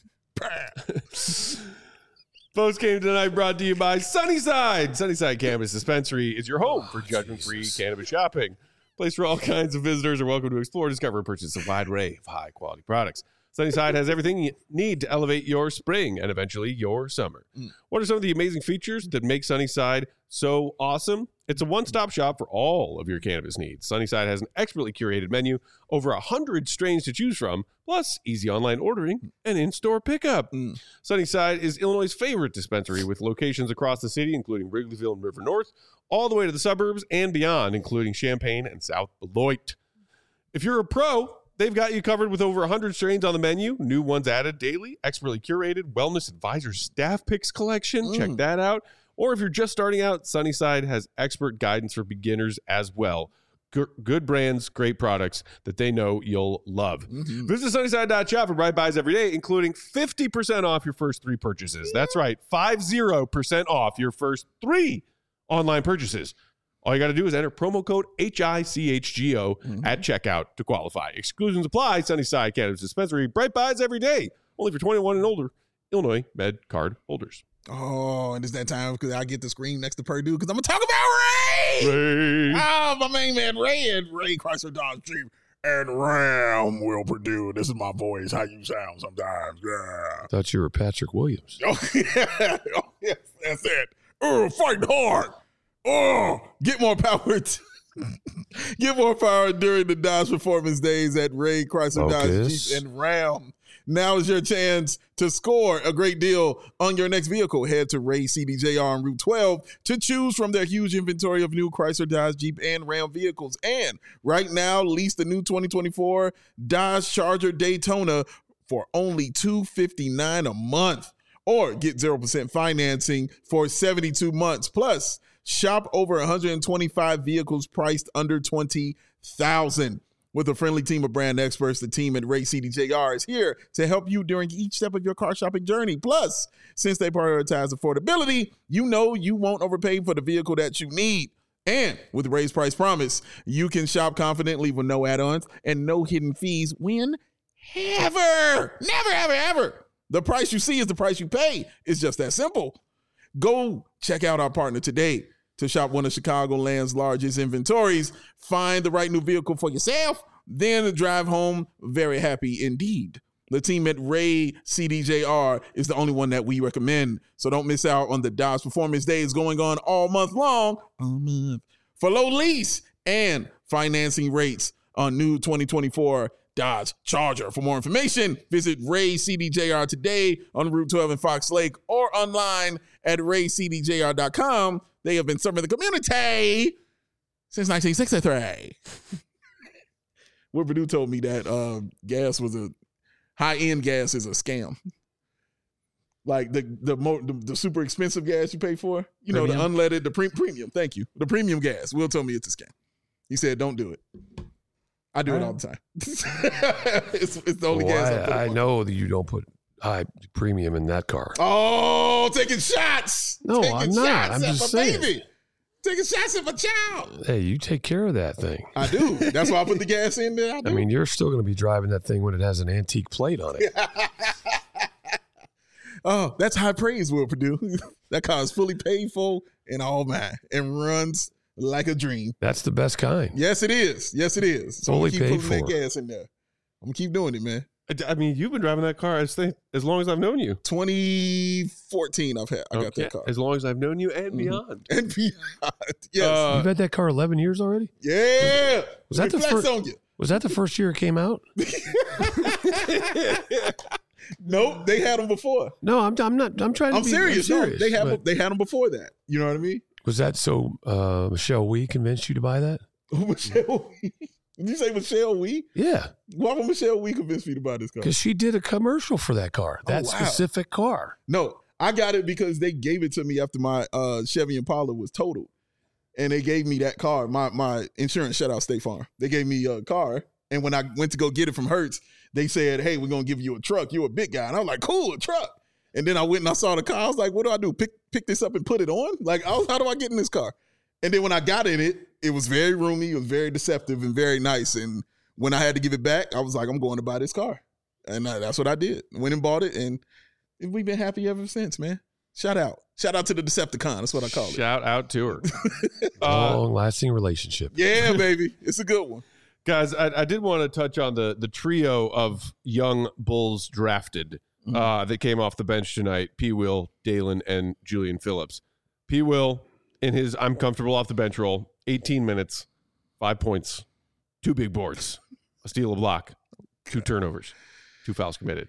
S1: Post game tonight brought to you by Sunnyside. Sunnyside Cannabis Dispensary is your home for judgment-free oh, cannabis shopping. Place where all kinds of visitors are welcome to explore, discover, and purchase a wide array of high-quality products. Sunnyside has everything you need to elevate your spring and eventually your summer. Mm. What are some of the amazing features that make Sunnyside so awesome? It's a one-stop shop for all of your cannabis needs. Sunnyside has an expertly curated menu, over one hundred strains to choose from, plus easy online ordering and in-store pickup. Mm. Sunnyside is Illinois' favorite dispensary with locations across the city, including Wrigleyville and River North, all the way to the suburbs and beyond, including Champaign and South Beloit. If you're a pro, they've got you covered with over one hundred strains on the menu, new ones added daily, expertly curated Wellness Advisor staff picks collection. Mm. Check that out. Or if you're just starting out, Sunnyside has expert guidance for beginners as well. G- good brands, great products that they know you'll love. Mm-hmm. Visit Sunnyside dot shop for bright buys every day, including fifty percent off your first three purchases. That's right, fifty percent off your first three online purchases. All you got to do is enter promo code H I C H G O mm-hmm. at checkout to qualify. Exclusions apply. Sunnyside Cannabis Dispensary. Bright buys every day. Only for twenty-one and older Illinois Med card holders.
S2: Oh, and it's that time because I get the screen next to Purdue because I'm going to talk about Ray.
S1: Ray.
S2: Oh, my main man, Ray and Ray Chrysler Dodge Jeep and Ram Will Purdue. This is my voice, how you sound sometimes. Yeah.
S3: I thought you were Patrick Williams.
S2: Oh, yeah. Oh, yes, that's it. Oh, fighting hard. Oh, get more power. T- get more power during the Dodge Performance Days at Ray Chrysler Dodge Jeep and Ram. Now is your chance to score a great deal on your next vehicle. Head to Ray C D J R on Route twelve to choose from their huge inventory of new Chrysler, Dodge, Jeep, and Ram vehicles. And right now, lease the new twenty twenty-four Dodge Charger Daytona for only two hundred fifty-nine dollars a month. Or get zero percent financing for seventy-two months. Plus, shop over one hundred twenty-five vehicles priced under twenty thousand dollars. With a friendly team of brand experts, the team at Ray C D J R is here to help you during each step of your car shopping journey. Plus, since they prioritize affordability, you know you won't overpay for the vehicle that you need. And with Ray's Price Promise, you can shop confidently with no add-ons and no hidden fees whenever. Never, ever, ever. The price you see is the price you pay. It's just that simple. Go check out our partner today. To shop one of Chicagoland's largest inventories, find the right new vehicle for yourself, then drive home very happy indeed. The team at Ray C D J R is the only one that we recommend, so don't miss out on the Dodge Performance Days going on all month long all month, for low lease and financing rates on new twenty twenty-four Dodge Charger. For more information, visit Ray C D J R today on Route twelve in Fox Lake or online at ray c d j r dot com. They have been serving the community since nineteen sixty-three. Will Purdue told me that uh, gas was a high-end gas is a scam. Like the the, mo- the the super expensive gas you pay for, you premium. know, the unleaded, the pre- premium. Thank you, the premium gas. Will told me it's a scam. He said, "Don't do it." I do all it all the time. it's, it's the only
S3: well,
S2: gas I,
S3: I, I know that you don't put high premium in that car.
S2: Oh, taking shots.
S3: No,
S2: taking
S3: I'm not. I'm just saying.
S2: Baby. Taking shots at my child.
S3: Hey, you take care of that thing.
S2: I do. That's why I put the gas in there. I, do.
S3: I mean, you're still going to be driving that thing when it has an antique plate on it.
S2: Oh, that's high praise, Will Purdue. That car is fully paid for and all mine and runs like a dream.
S3: That's the best kind.
S2: Yes, it is. Yes, it is. So
S3: Fully
S2: I'm gonna keep
S3: paid
S2: putting that
S3: for.
S2: gas in there. I'm gonna keep doing it, man.
S1: I mean, you've been driving that car as, as long as I've known you.
S2: twenty fourteen, I've had. I got
S1: Okay.
S2: that car.
S1: As long as I've known you and
S2: Mhm.
S1: beyond.
S2: And beyond. Yes.
S1: Uh,
S3: You've had that car eleven years already?
S2: yeah.
S3: Was that the
S2: Flex
S3: first-
S2: on you?
S3: Was that the first year it came out?
S2: Nope, they had them before.
S3: No, I'm, I'm not. I'm trying to
S2: I'm
S3: be
S2: serious.
S3: I'm
S2: No,
S3: serious,
S2: they had
S3: but-
S2: them, they had them before that. You know what I mean?
S3: Was that so uh, Michelle Wee convinced you to buy that?
S2: Michelle Wee. Did you say Michelle Wee?
S3: Yeah,
S2: Why would Michelle Wee convince me to buy this car?
S3: because she did a commercial for that car,
S2: Oh,
S3: that
S2: wow.
S3: specific car.
S2: No, I got it because they gave it to me after my uh, Chevy Impala was totaled. And they gave me that car. My my insurance shut out State Farm. They gave me a car. And when I went to go get it from Hertz, they said, hey, we're going to give you a truck. You're a big guy. And I was like, cool, a truck. And then I went and I saw the car. I was like, what do I do? Pick pick this up and put it on? Like, I was, how do I get in this car? And then when I got in it, it was very roomy. It was very deceptive and very nice. And when I had to give it back, I was like, I'm going to buy this car. And uh, that's what I did. Went and bought it. And we've been happy ever since, man. Shout out. Shout out to the Decepticon. That's what I call it.
S1: Shout out to her. uh,
S3: Long lasting relationship.
S2: Yeah, baby. It's a good one.
S1: guys, I, I did want to touch on the the trio of young Bulls drafted
S2: Mm-hmm.
S1: uh, that came off the bench tonight. P. Will, Dalen, and Julian Phillips. P. Will, in his I'm comfortable off the bench role, eighteen minutes, five points, two big boards, a steal, a block, two turnovers, two fouls committed.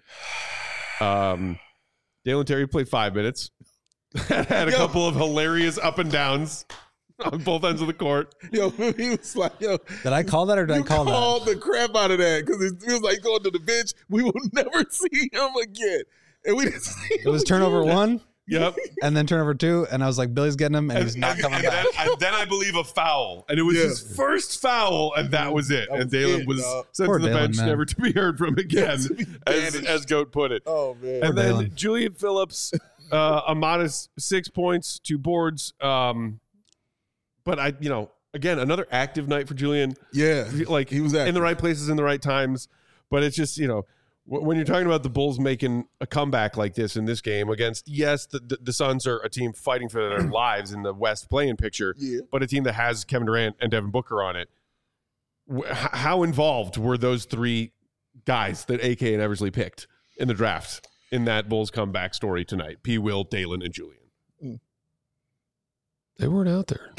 S1: Um, Dalen Terry played five minutes, had a
S2: Yo.
S1: couple of hilarious up and downs on both ends of the court.
S2: Yo, he was like, yo,
S4: Did I call that or did
S2: you
S4: I call that?
S2: called the crap out of that because it feels like going to the bench. We will never see him again. And we didn't see him
S4: It was turnover
S2: again.
S4: one
S1: Yep.
S4: and then turnover two, and I was like, Billy's getting him, and he's not coming
S1: and
S4: back.
S1: Then I, then I believe a foul, and it was
S2: Yeah.
S1: his first foul, and that was it.
S2: That
S1: and
S2: was
S1: Dalen
S2: it,
S1: was
S2: dog.
S1: sent
S4: Poor
S1: to the
S4: Dalen,
S1: bench,
S4: man.
S1: never to be heard from again,
S2: To be
S1: as,
S2: banished.
S1: as Goat put it.
S2: Oh, man.
S1: And then
S4: Dalen.
S1: Julian Phillips, uh, a modest six points, two boards. Um, but I, you know, again, another active night for Julian.
S2: yeah.
S1: Like
S2: He was
S1: in
S2: active.
S1: the right places in the right times. But it's just, you know, wh- when you're talking about the Bulls making a comeback like this in this game against, yes, the, the, the Suns are a team fighting for their lives in the West playing picture,
S2: Yeah.
S1: but a team that has Kevin Durant and Devin Booker on it. Wh- h- How involved were those three guys that A K and Eversley picked in the draft in that Bulls comeback story tonight? P. Will, Dalen, and Julian.
S3: They weren't out there.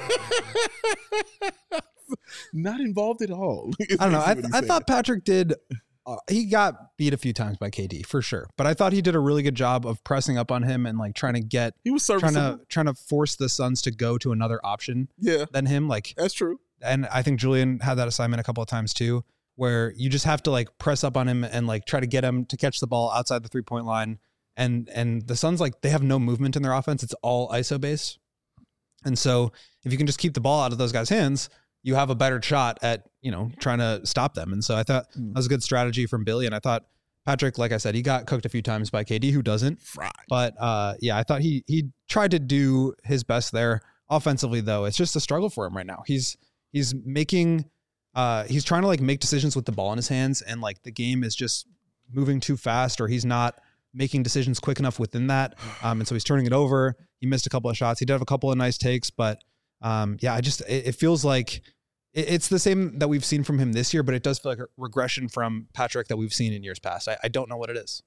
S2: Not involved at all.
S4: I don't know. I, I thought Patrick did. Uh, he got beat a few times by K D for sure, but I thought he did a really good job of pressing up on him and like trying to get,
S2: he was
S4: trying
S2: serviceable.
S4: to trying to force the Suns to go to another option
S2: Yeah,
S4: than him. Like,
S2: that's true.
S4: and I think Julian had that assignment a couple of times too, where you just have to like press up on him and like try to get him to catch the ball outside the three point line. And and the Suns, like, they have no movement in their offense. It's all I S O based. And so if you can just keep the ball out of those guys' hands, you have a better shot at, you know, trying to stop them. And so I thought that was a good strategy from Billy. And I thought Patrick, like I said, he got cooked a few times by K D, who doesn't.
S2: Fried.
S4: But uh, yeah, I thought he he tried to do his best there. Offensively, though, it's just a struggle for him right now. He's he's making uh, he's trying to like make decisions with the ball in his hands, and like the game is just moving too fast, or he's not making decisions quick enough within that. Um, and so he's turning it over. He missed a couple of shots. He did have a couple of nice takes, but um, yeah, I just it, it feels like it, it's the same that we've seen from him this year, but it does feel like a regression from Patrick that we've seen in years past. I, I don't know what it is.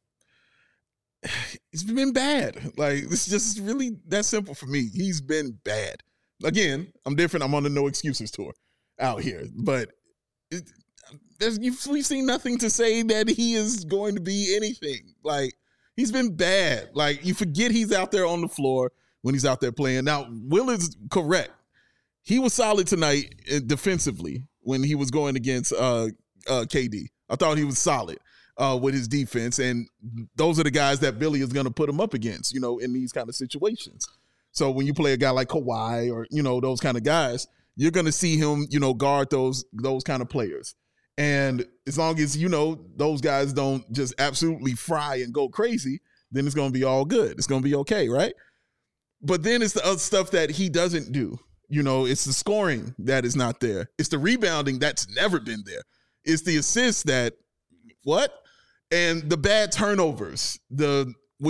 S2: It's been bad. Like, it's just really that simple for me. He's been bad. Again, I'm different. I'm on the no excuses tour out here, but it, there's you've, we've seen nothing to say that he is going to be anything. Like, he's been bad. Like, you forget he's out there on the floor when he's out there playing. Now, Will is correct. He was solid tonight uh, defensively when he was going against uh, uh, K D. I thought he was solid uh, with his defense, and those are the guys that Billy is going to put him up against, you know, in these kind of situations. So when you play a guy like Kawhi or, you know, those kind of guys, you're going to see him, you know, guard those those kind of players. And as long as, you know, those guys don't just absolutely fry and go crazy, then it's going to be all good. It's going to be okay, right? But then it's the other stuff that he doesn't do. You know, it's the scoring that is not there. It's the rebounding that's never been there. It's the assists that, what? And the bad turnovers. The we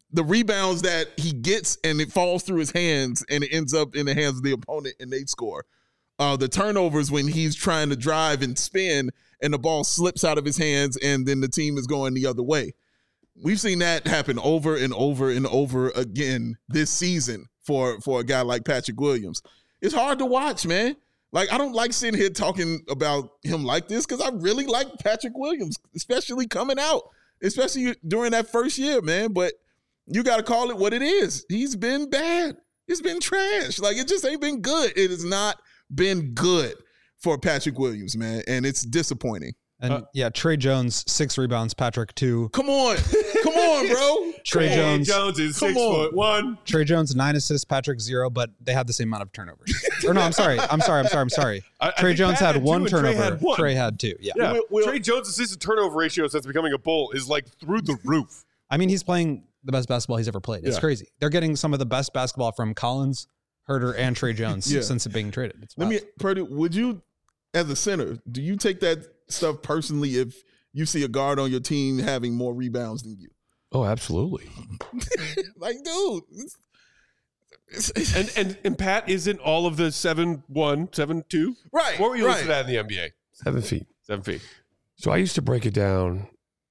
S2: the rebounds that he gets and it falls through his hands and it ends up in the hands of the opponent and they score. Uh, the turnovers when he's trying to drive and spin and the ball slips out of his hands and then the team is going the other way. We've seen that happen over and over and over again this season for, for a guy like Patrick Williams. It's hard to watch, man. Like, I don't like sitting here talking about him like this because I really like Patrick Williams, especially coming out, especially during that first year, man. But you got to call it what it is. He's been bad. It's been trash. Like, it just ain't been good. It has not been good for Patrick Williams, man, and it's disappointing.
S4: And
S1: Uh,
S4: yeah, Trey Jones, six rebounds, Patrick, two.
S2: Come on. Come on, bro.
S4: Trey
S1: Trey
S4: Jones,
S1: Jones is
S2: Come
S1: six
S2: on.
S1: foot one.
S4: Trey Jones, nine assists, Patrick, zero, but they had the same amount of turnovers. Or no, I'm sorry. I'm sorry. I'm sorry. I'm sorry.
S1: I- I
S4: Trey
S1: think
S4: Jones
S1: Pat
S4: had one
S1: two and Trey
S4: turnover.
S1: had one.
S4: Trey had two. Yeah.
S1: Yeah,
S2: We'll- we'll-
S1: Trey Jones' assist to turnover ratio since becoming a Bull is like through the roof.
S4: I mean, he's playing the best basketball he's ever played. It's
S1: Yeah.
S4: crazy. They're getting some of the best basketball from Collins, Herter, and Trey Jones
S2: Yeah.
S4: since it being traded. It's
S2: Let
S4: wild.
S2: me, Purdy, would you, as a center, do you take that stuff personally if you see a guard on your team having more rebounds than you?
S3: Oh, absolutely.
S2: Like, dude. It's, it's, it's,
S1: And and and Pat isn't all of the seven one, seven two.
S2: right.
S1: What were you
S2: right.
S1: listed at in the N B A?
S3: Seven feet.
S1: Seven feet.
S3: So I used to break it down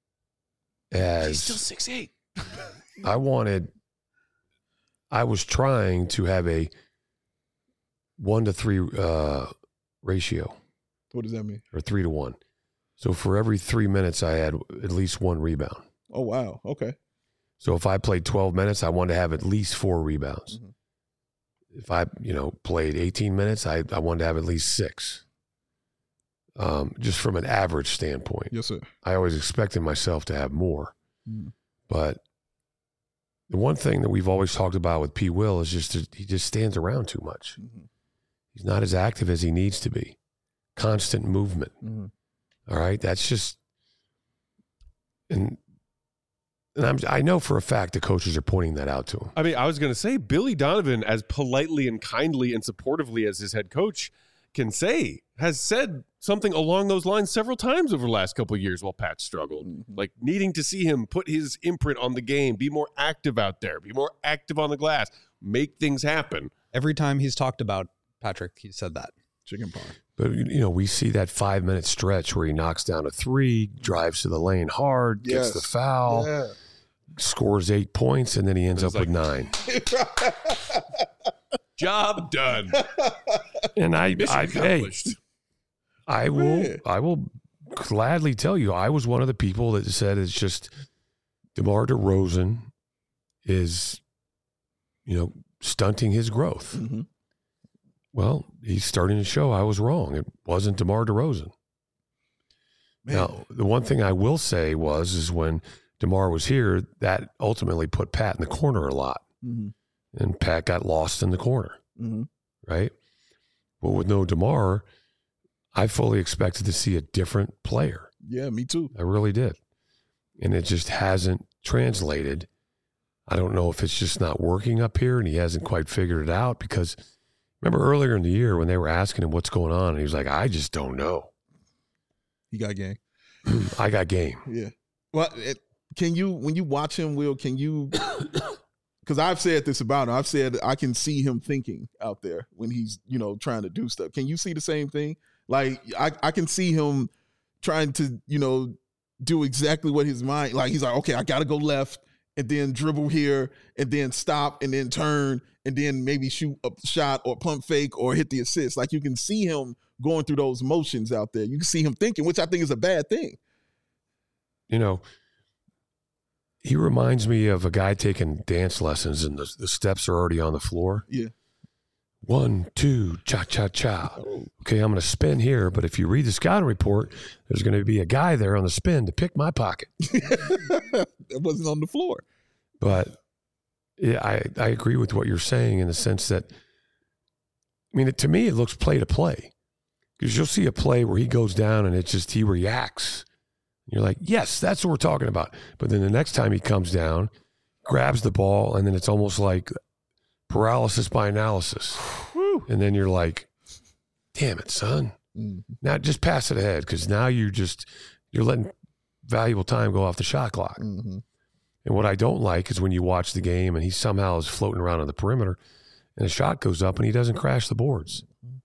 S3: as
S1: six eight.
S3: I wanted, I was trying to have a one to three uh, ratio
S2: What does that mean?
S3: or three to one. So for every three minutes, I had at least one rebound.
S2: Oh, wow. Okay.
S3: So if I played twelve minutes, I wanted to have at least four rebounds.
S2: Mhm.
S3: If I, you know, played eighteen minutes, I, I wanted to have at least six. Um, just from an average standpoint.
S2: Yes, sir.
S3: I always expected myself to have more.
S2: Mm.
S3: But the one thing that we've always talked about with P. Will is just that he just stands around too much.
S2: Mm-hmm.
S3: He's not as active as he needs to be. Constant movement.
S2: Mm-hmm.
S3: All right. That's just, and, and I'm, I know for a fact the coaches are pointing that out to him.
S1: I mean, I was going to say Billy Donovan, as politely and kindly and supportively as his head coach can say, has said something along those lines several times over the last couple of years while Pat struggled.
S2: Mm-hmm.
S1: Like needing to see him put his imprint on the game, be more active out there, be more active on the glass, make things happen.
S4: Every time he's talked about Patrick, he said that.
S2: Chicken pie.
S3: But, you know, we see that five minute stretch where he knocks down a three, drives to the lane hard, gets
S2: Yes.
S3: the foul,
S2: Yeah.
S3: scores eight points, and then he ends
S1: It's
S3: up with
S1: like-
S3: nine.
S1: Job done.
S3: And I,
S1: Mission
S3: I hey,
S1: accomplished.
S3: I will,
S2: Man.
S3: I will gladly tell you, I was one of the people that said it's just DeMar DeRozan is, you know, stunting his growth.
S2: Mm-hmm.
S3: Well, he's starting to show I was wrong. It wasn't DeMar DeRozan.
S2: Man.
S3: Now, the one thing I will say was, is when DeMar was here, that ultimately put Pat in the corner a lot.
S2: Mm-hmm.
S3: And Pat got lost in the corner,
S2: Mm-hmm.
S3: right? But with no DeMar, I fully expected to see a different player.
S2: Yeah, me too.
S3: I really did. And it just hasn't translated. I don't know if it's just not working up here and he hasn't quite figured it out, because remember earlier in the year when they were asking him what's going on and he was like, I just don't know.
S2: He got game.
S3: I got game.
S2: Yeah. Well, it, can you, when you watch him, Will, can you, because I've said this about him, I've said I can see him thinking out there when he's, you know, trying to do stuff. Can you see the same thing? Like, I, I can see him trying to, you know, do exactly what his mind, like, he's like, okay, I got to go left and then dribble here and then stop and then turn and then maybe shoot a shot or pump fake or hit the assist. Like, you can see him going through those motions out there. You can see him thinking, which I think is a bad thing.
S3: You know, he reminds me of a guy taking dance lessons and the, the steps are already on the floor.
S2: Yeah.
S3: One, two, cha, cha, cha. Okay, I'm going to spin here, but if you read the scouting report, there's going to be a guy there on the spin to pick my pocket.
S2: It wasn't on the floor.
S3: But yeah, I, I agree with what you're saying in the sense that, I mean, it, to me, it looks play to play. Because you'll see a play where he goes down and it's just he reacts. You're like, yes, that's what we're talking about. But then the next time he comes down, grabs the ball, and then it's almost like paralysis by analysis. And then you're like, damn it, son.
S2: Mm.
S3: Now just pass it ahead, because now you just, you're letting valuable time go off the shot clock.
S2: Mm-hmm.
S3: And what I don't like is when you watch the game and he somehow is floating around on the perimeter and a shot goes up and he doesn't crash the boards.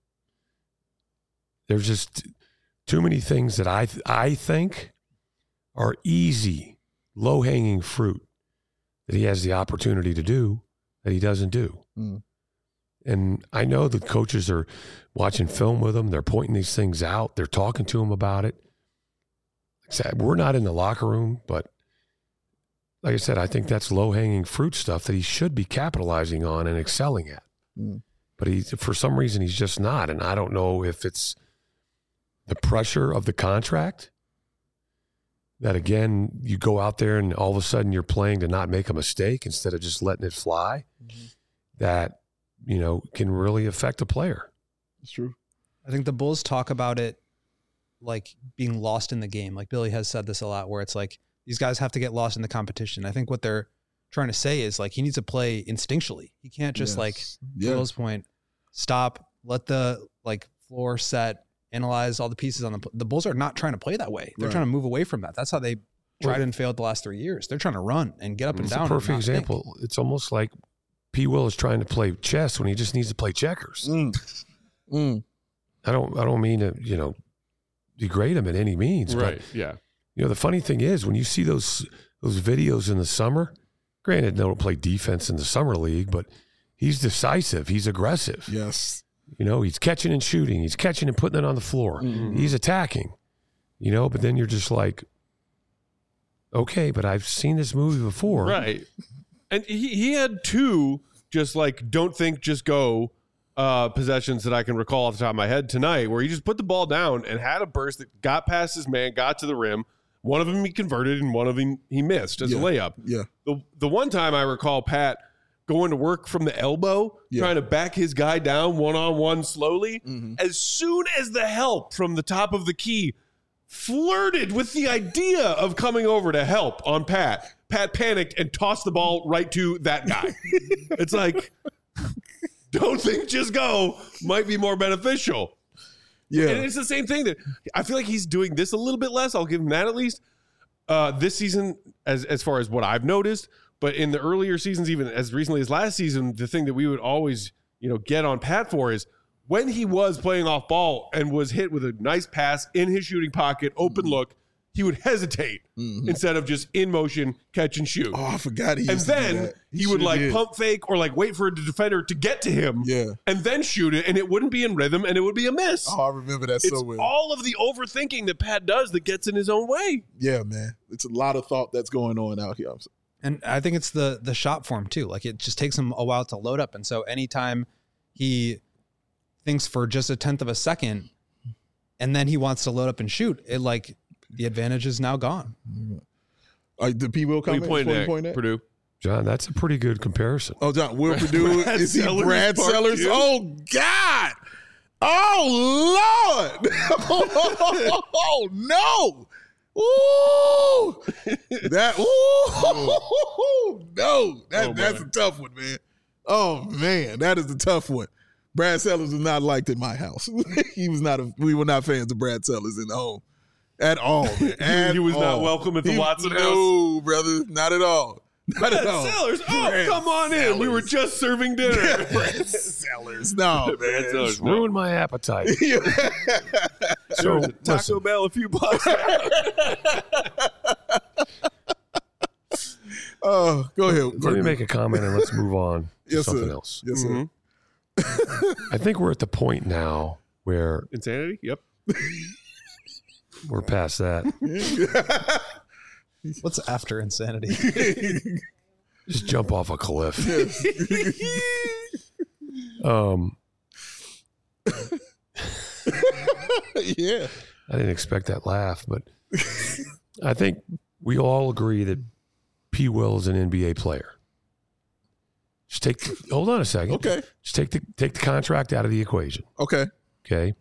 S3: There's just too many things that I th- I think are easy, low-hanging fruit that he has the opportunity to do that he doesn't do.
S2: Mm.
S3: And I know the coaches are watching film with him. They're pointing these things out. They're talking to him about it. We're not in the locker room, but like I said, I think that's low-hanging fruit stuff that he should be capitalizing on and excelling at.
S2: Mm.
S3: But he, for some reason, he's just not. And I don't know if it's the pressure of the contract that, again, you go out there and all of a sudden you're playing to not make a mistake instead of just letting it fly, mm-hmm. that, you know, can really affect a player.
S2: It's true.
S4: I think the Bulls talk about it like being lost in the game. Like Billy has said this a lot, where it's like these guys have to get lost in the competition. I think what they're trying to say is like he needs to play instinctually. He can't just yes. like,
S2: yeah.
S4: to Bill's point, stop, let the like floor set, analyze all the pieces on the the Bulls are not trying to play that way. They're
S2: right.
S4: trying to move away from that. That's how they tried and failed the last three years. They're trying to run and get up and
S3: it's
S4: down.
S3: It's a perfect example. Think. It's almost like P. Will is trying to play chess when he just needs to play checkers.
S2: Mm. Mm.
S3: I don't I don't mean to, you know, degrade him in any means.
S1: Right.
S3: But,
S1: yeah.
S3: You know, the funny thing is when you see those those videos in the summer, granted, they don't play defense in the summer league, but he's decisive. He's aggressive.
S2: Yes.
S3: You know, he's catching and shooting. He's catching and putting it on the floor.
S2: Mm-hmm.
S3: He's attacking. You know, but then you're just like, okay, but I've seen this movie before.
S1: Right. And he, he had two just like don't think, just go uh, possessions that I can recall off the top of my head tonight where he just put the ball down and had a burst that got past his man, got to the rim. One of them he converted and one of them he missed as
S2: yeah.
S1: a layup.
S2: Yeah.
S1: The the one time I recall Pat going to work from the elbow,
S2: yeah.
S1: trying to back his guy down one-on-one slowly.
S2: Mm-hmm.
S1: As soon as the help from the top of the key flirted with the idea of coming over to help on Pat, Pat panicked and tossed the ball right to that guy. It's like, don't think, just go might be more beneficial.
S2: Yeah.
S1: And it's the same thing that I feel like he's doing this a little bit less. I'll give him that at least. Uh, this season, as as far as what I've noticed, but in the earlier seasons, even as recently as last season, the thing that we would always, you know, get on Pat for is when he was playing off ball and was hit with a nice pass in his shooting pocket, open look, he would hesitate
S2: mm-hmm.
S1: instead of just in motion, catch and shoot.
S2: Oh, I forgot he
S1: And
S2: used to do
S1: then
S2: that.
S1: he,
S2: He
S1: would
S2: sure
S1: like
S2: did.
S1: pump fake or like wait for a defender to get to him
S2: Yeah.
S1: and then shoot it, and it wouldn't be in rhythm and it would be a miss.
S2: Oh, I remember that
S1: It's
S2: so well.
S1: all of the overthinking that Pat does that gets in his own way.
S2: Yeah, man. It's a lot of thought that's going on out here.
S4: And I think it's the the shot form too. Like it just takes him a while to load up. And so anytime he thinks for just a tenth of a second and then he wants to load up and shoot, it like the advantage is now gone.
S2: Uh, the P. Will
S1: We
S2: comment?
S1: pointed at
S2: point at?
S1: Purdue.
S3: John, that's a pretty good comparison.
S2: Oh, John, Will Purdue.
S1: Brad
S2: Is he
S1: Sellers
S2: Brad
S1: part
S2: Sellers?
S1: two?
S2: Oh, God. Oh, Lord. Oh, no. Ooh. That, ooh. No. That,
S1: Oh,
S2: that's
S1: boy.
S2: a tough one, man. Oh, man. That is a tough one. Brad Sellers was not liked in my house. He was not a, we were not fans of Brad Sellers in the home. At all, man. At
S1: He was not
S2: all.
S1: welcome at the
S2: He-
S1: Watson house.
S2: No, brother. Not at all. Not at
S1: Brad
S2: all.
S1: Sellers. Oh,
S2: Brad
S1: come on in. We were just serving dinner.
S2: Brad Sellers. No,
S1: Brad
S2: man.
S1: Sellers.
S3: Ruined my appetite.
S1: So,
S3: So,
S1: Taco
S3: listen,
S1: Bell a few blocks.
S2: Oh, go ahead.
S3: let me make a comment and let's move on to
S2: Yes,
S3: something
S2: sir.
S3: else.
S2: Yes, sir.
S1: Mhm.
S3: I think we're at the point now where
S1: Insanity? Yep.
S3: we're past that.
S4: What's after insanity?
S3: Just jump off a cliff. Um,
S2: Yeah.
S3: I didn't expect that laugh, but I think we all agree that P. Will is an N B A player. Just take, the, hold on a second.
S2: Okay.
S3: Just take the take the contract out of the equation.
S2: Okay.
S3: Okay.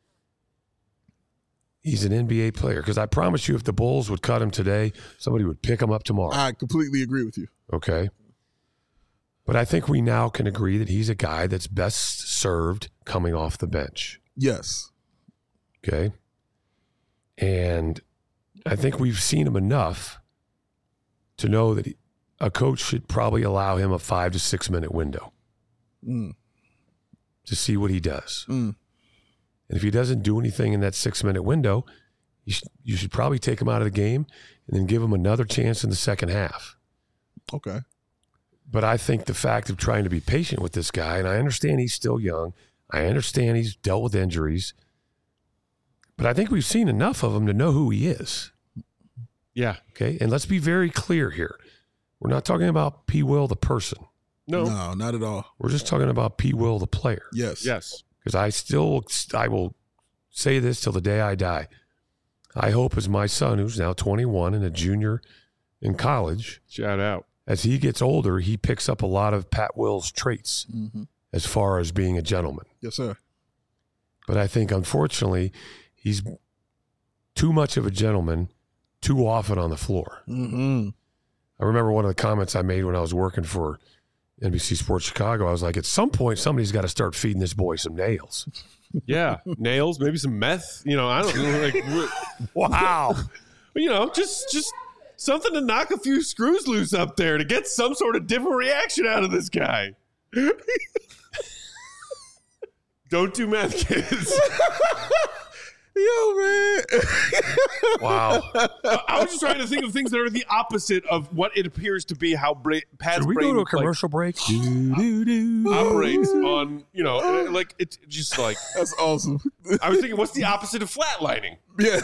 S3: He's an N B A player because I promise you, if the Bulls would cut him today, somebody would pick him up tomorrow.
S2: I completely agree with you.
S3: Okay. But I think we now can agree that he's a guy that's best served coming off the bench.
S2: Yes.
S3: Okay. And I think we've seen him enough to know that he, a coach should probably allow him a five to six minute window
S2: Mm.
S3: to see what he does.
S2: Mm.
S3: And if he doesn't do anything in that six minute window, you should, you should probably take him out of the game and then give him another chance in the second half.
S2: Okay.
S3: But I think the fact of trying to be patient with this guy, and I understand he's still young. I understand he's dealt with injuries. But I think we've seen enough of him to know who he is.
S1: Yeah.
S3: Okay? And let's be very clear here. We're not talking about P. Will, the person.
S1: No.
S2: No, not at all.
S3: We're just talking about P. Will, the player.
S2: Yes.
S1: Yes.
S3: Because I still, I will say this till the day I die. I hope as my son, who's now twenty-one and a junior in college,
S1: Shout out.
S3: as he gets older, he picks up a lot of Pat Will's traits
S2: Mm-hmm.
S3: as far as being a gentleman.
S2: Yes, sir.
S3: But I think, unfortunately, he's too much of a gentleman too often on the floor.
S2: Mm-hmm.
S3: I remember one of the comments I made when I was working for N B C Sports Chicago. I was like, at some point, somebody's got to start feeding this boy some nails.
S1: Yeah. Nails, maybe some meth. You know, I don't know. Like, what-
S3: Wow.
S1: you know, just just something to knock a few screws loose up there to get some sort of different reaction out of this guy. Don't do meth, kids.
S2: Yo, man.
S3: Wow.
S1: I I was just trying to think of things that are the opposite of what it appears to be how Bra- Pat's
S3: Should we
S1: brain
S3: go to a
S1: like,
S3: commercial break? Do, do, do.
S1: operates on, you know, like it's just like
S2: That's awesome.
S1: I was thinking, what's the opposite of flatlining?
S2: Yeah.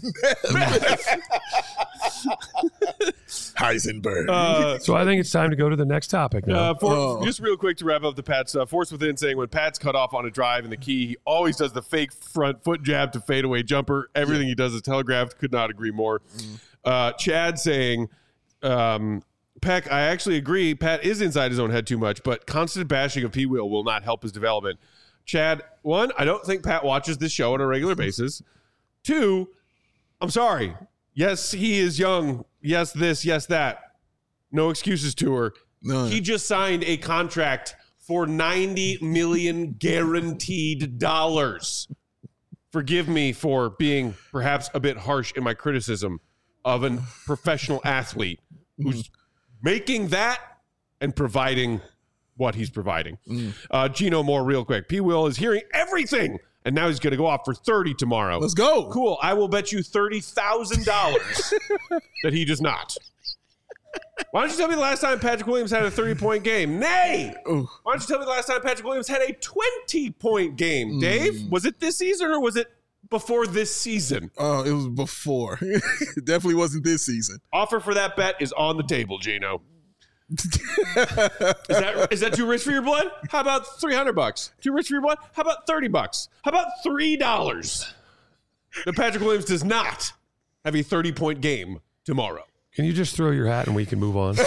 S2: Heisenberg.
S1: Uh,
S3: So I think it's time to go to the next topic now.
S1: Uh, for,
S2: Oh.
S1: Just real quick to wrap up the Pat stuff. Force Within saying when Pat's cut off on a drive in the key, he always does the fake front foot jab to fadeaway jumper. Everything he does is telegraphed. Could not agree more. Uh, Chad saying, um, Peck, I actually agree. Pat is inside his own head too much, but constant bashing of P. Will will not help his development. Chad, one, I don't think Pat watches this show on a regular basis. Two, I'm sorry. Yes, he is young. Yes, this, yes, that. No excuses to her.
S2: None.
S1: He just signed a contract for ninety million guaranteed dollars. Forgive me for being perhaps a bit harsh in my criticism of a professional athlete who's making that and providing what he's providing.
S2: Mm.
S1: Uh, Gino Moore, real quick. P. Will is hearing everything, and now he's going to go off for thirty tomorrow.
S2: Let's go.
S1: Cool. I will bet you thirty thousand dollars that he does not. Why don't you tell me the last time Patrick Williams had a thirty-point game? Nay!
S2: Ooh.
S1: Why don't you tell me the last time Patrick Williams had a twenty-point game? Dave, was it this season or was it before this season?
S2: Oh, it was before. It definitely wasn't this season.
S1: Offer for that bet is on the table, Gino. Is that is that too rich for your blood? How about three hundred bucks? Too rich for your blood? How about thirty bucks? How about three dollars? That Patrick Williams does not have a thirty-point game tomorrow.
S3: Can you just throw your hat and we can move on?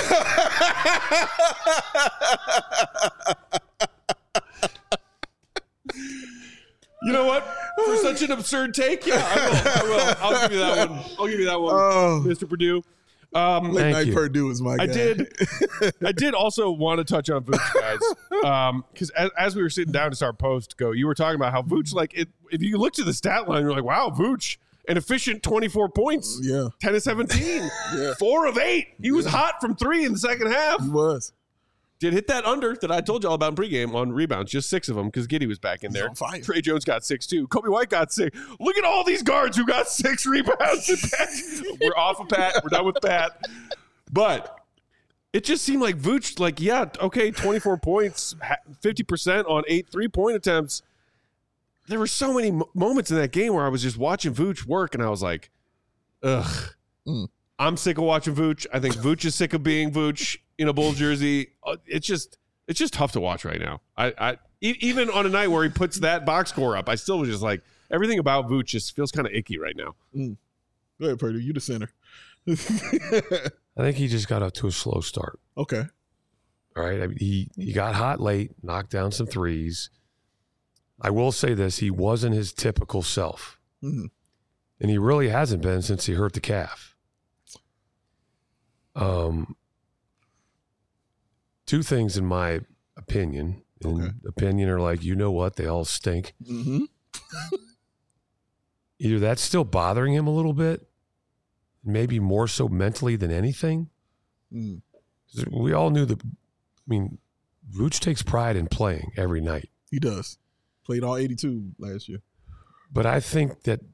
S1: You know what? For such an absurd take, yeah, I will. I will. I'll give you that one. I'll give you that one,
S2: Oh.
S1: Mister Purdue. Um,
S2: Late
S3: Thank
S2: night
S3: you.
S2: Purdue is my guy.
S1: I did. I did also want to touch on Vooch, guys, because as, as we were sitting down to start post go, you were talking about how Vooch, like, it, if you looked at the stat line, you're like, wow, Vooch, an efficient twenty-four points,
S2: Yeah,
S1: ten of seventeen,
S2: Yeah.
S1: four of eight. He was hot from three in the second half.
S2: he was.
S1: Did hit that under that I told you all about in pregame on rebounds, just six of them because Giddey was back in
S2: He's
S1: there.
S2: on fire.
S1: Trey Jones got six too. Kobe White got six. Look at all these guards who got six rebounds. We're off of Pat. We're done with Pat. But it just seemed like Vooch, like, yeah, okay, twenty-four points, fifty percent on eight three-point attempts. There were so many mo- moments in that game where I was just watching Vooch work, and I was like, ugh.
S2: Mm.
S1: I'm sick of watching Vooch. I think Vooch is sick of being Vooch in a Bull jersey. Uh, It's just it's just tough to watch right now. I, I e- even on a night where he puts that box score up, I still was just like, everything about Vooch just feels kind of icky right now.
S2: Go ahead, Purdue. You the center.
S3: I think he just got up to a slow start.
S2: Okay.
S3: All right. I mean, he, he got hot late, knocked down some threes. I will say this, he wasn't his typical self.
S2: Mhm.
S3: And he really hasn't been since he hurt the calf. Um, two things in my opinion. And
S2: Okay.
S3: opinion are like, you know what? They all stink.
S2: Mm-hmm.
S3: Either that's still bothering him a little bit, maybe more so mentally than anything.
S2: Mm.
S3: We all knew the. I mean, Vooch takes pride in playing every night.
S2: He does. Played all eighty-two last year.
S3: But I think that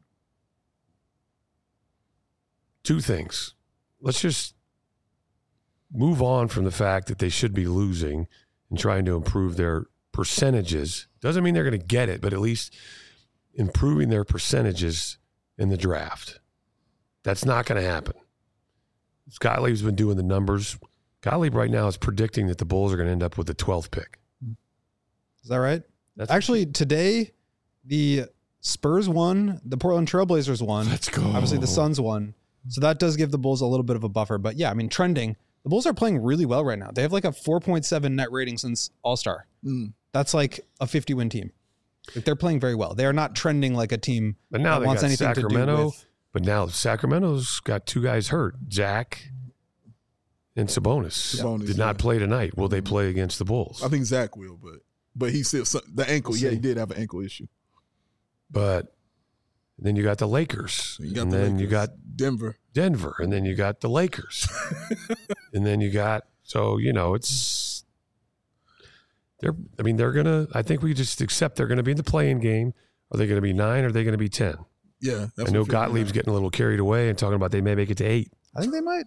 S3: two things. Let's just move on from the fact that they should be losing and trying to improve their percentages. Doesn't mean they're going to get it, but at least improving their percentages in the draft. That's not going to happen. Scott Lieb's been doing the numbers. Gottlieb right now is predicting that the Bulls are going to end up with the twelfth pick.
S4: Is that right?
S3: That's
S4: Actually, today, the Spurs won, the Portland Trailblazers won.
S1: Let's go.
S4: Obviously, the Suns won. So that does give the Bulls a little bit of a buffer. But yeah, I mean, trending. The Bulls are playing really well right now. They have like a four point seven net rating since All-Star.
S2: Mm.
S4: That's like a fifty-win team. Like they're playing very well. They are not trending like a team
S3: But now
S4: that
S3: they
S4: wants
S3: got
S4: anything to do
S3: Sacramento.
S4: with.
S3: But now Sacramento's got two guys hurt. Zach and Sabonis,
S2: Sabonis,
S3: did not
S2: yeah.
S3: play tonight. Will they play against the Bulls?
S2: I think Zach will, but but he still the ankle.
S4: We'll
S2: Yeah,
S4: see.
S2: he did have an ankle issue.
S3: But then you got the Lakers.
S2: You got
S3: and
S2: the
S3: then you
S2: Lakers,
S3: got
S2: Denver.
S3: Denver. And then you got the Lakers. and then you got, so, you know, it's, they're, I mean, they're going to, I think we just accept they're going to be in the play-in game. Are they going to be nine or are they going to be ten?
S2: Yeah, that's
S3: I know
S2: what fifty-nine.
S3: Gottlieb's getting a little carried away and talking about they may make it to eight.
S4: I think they might.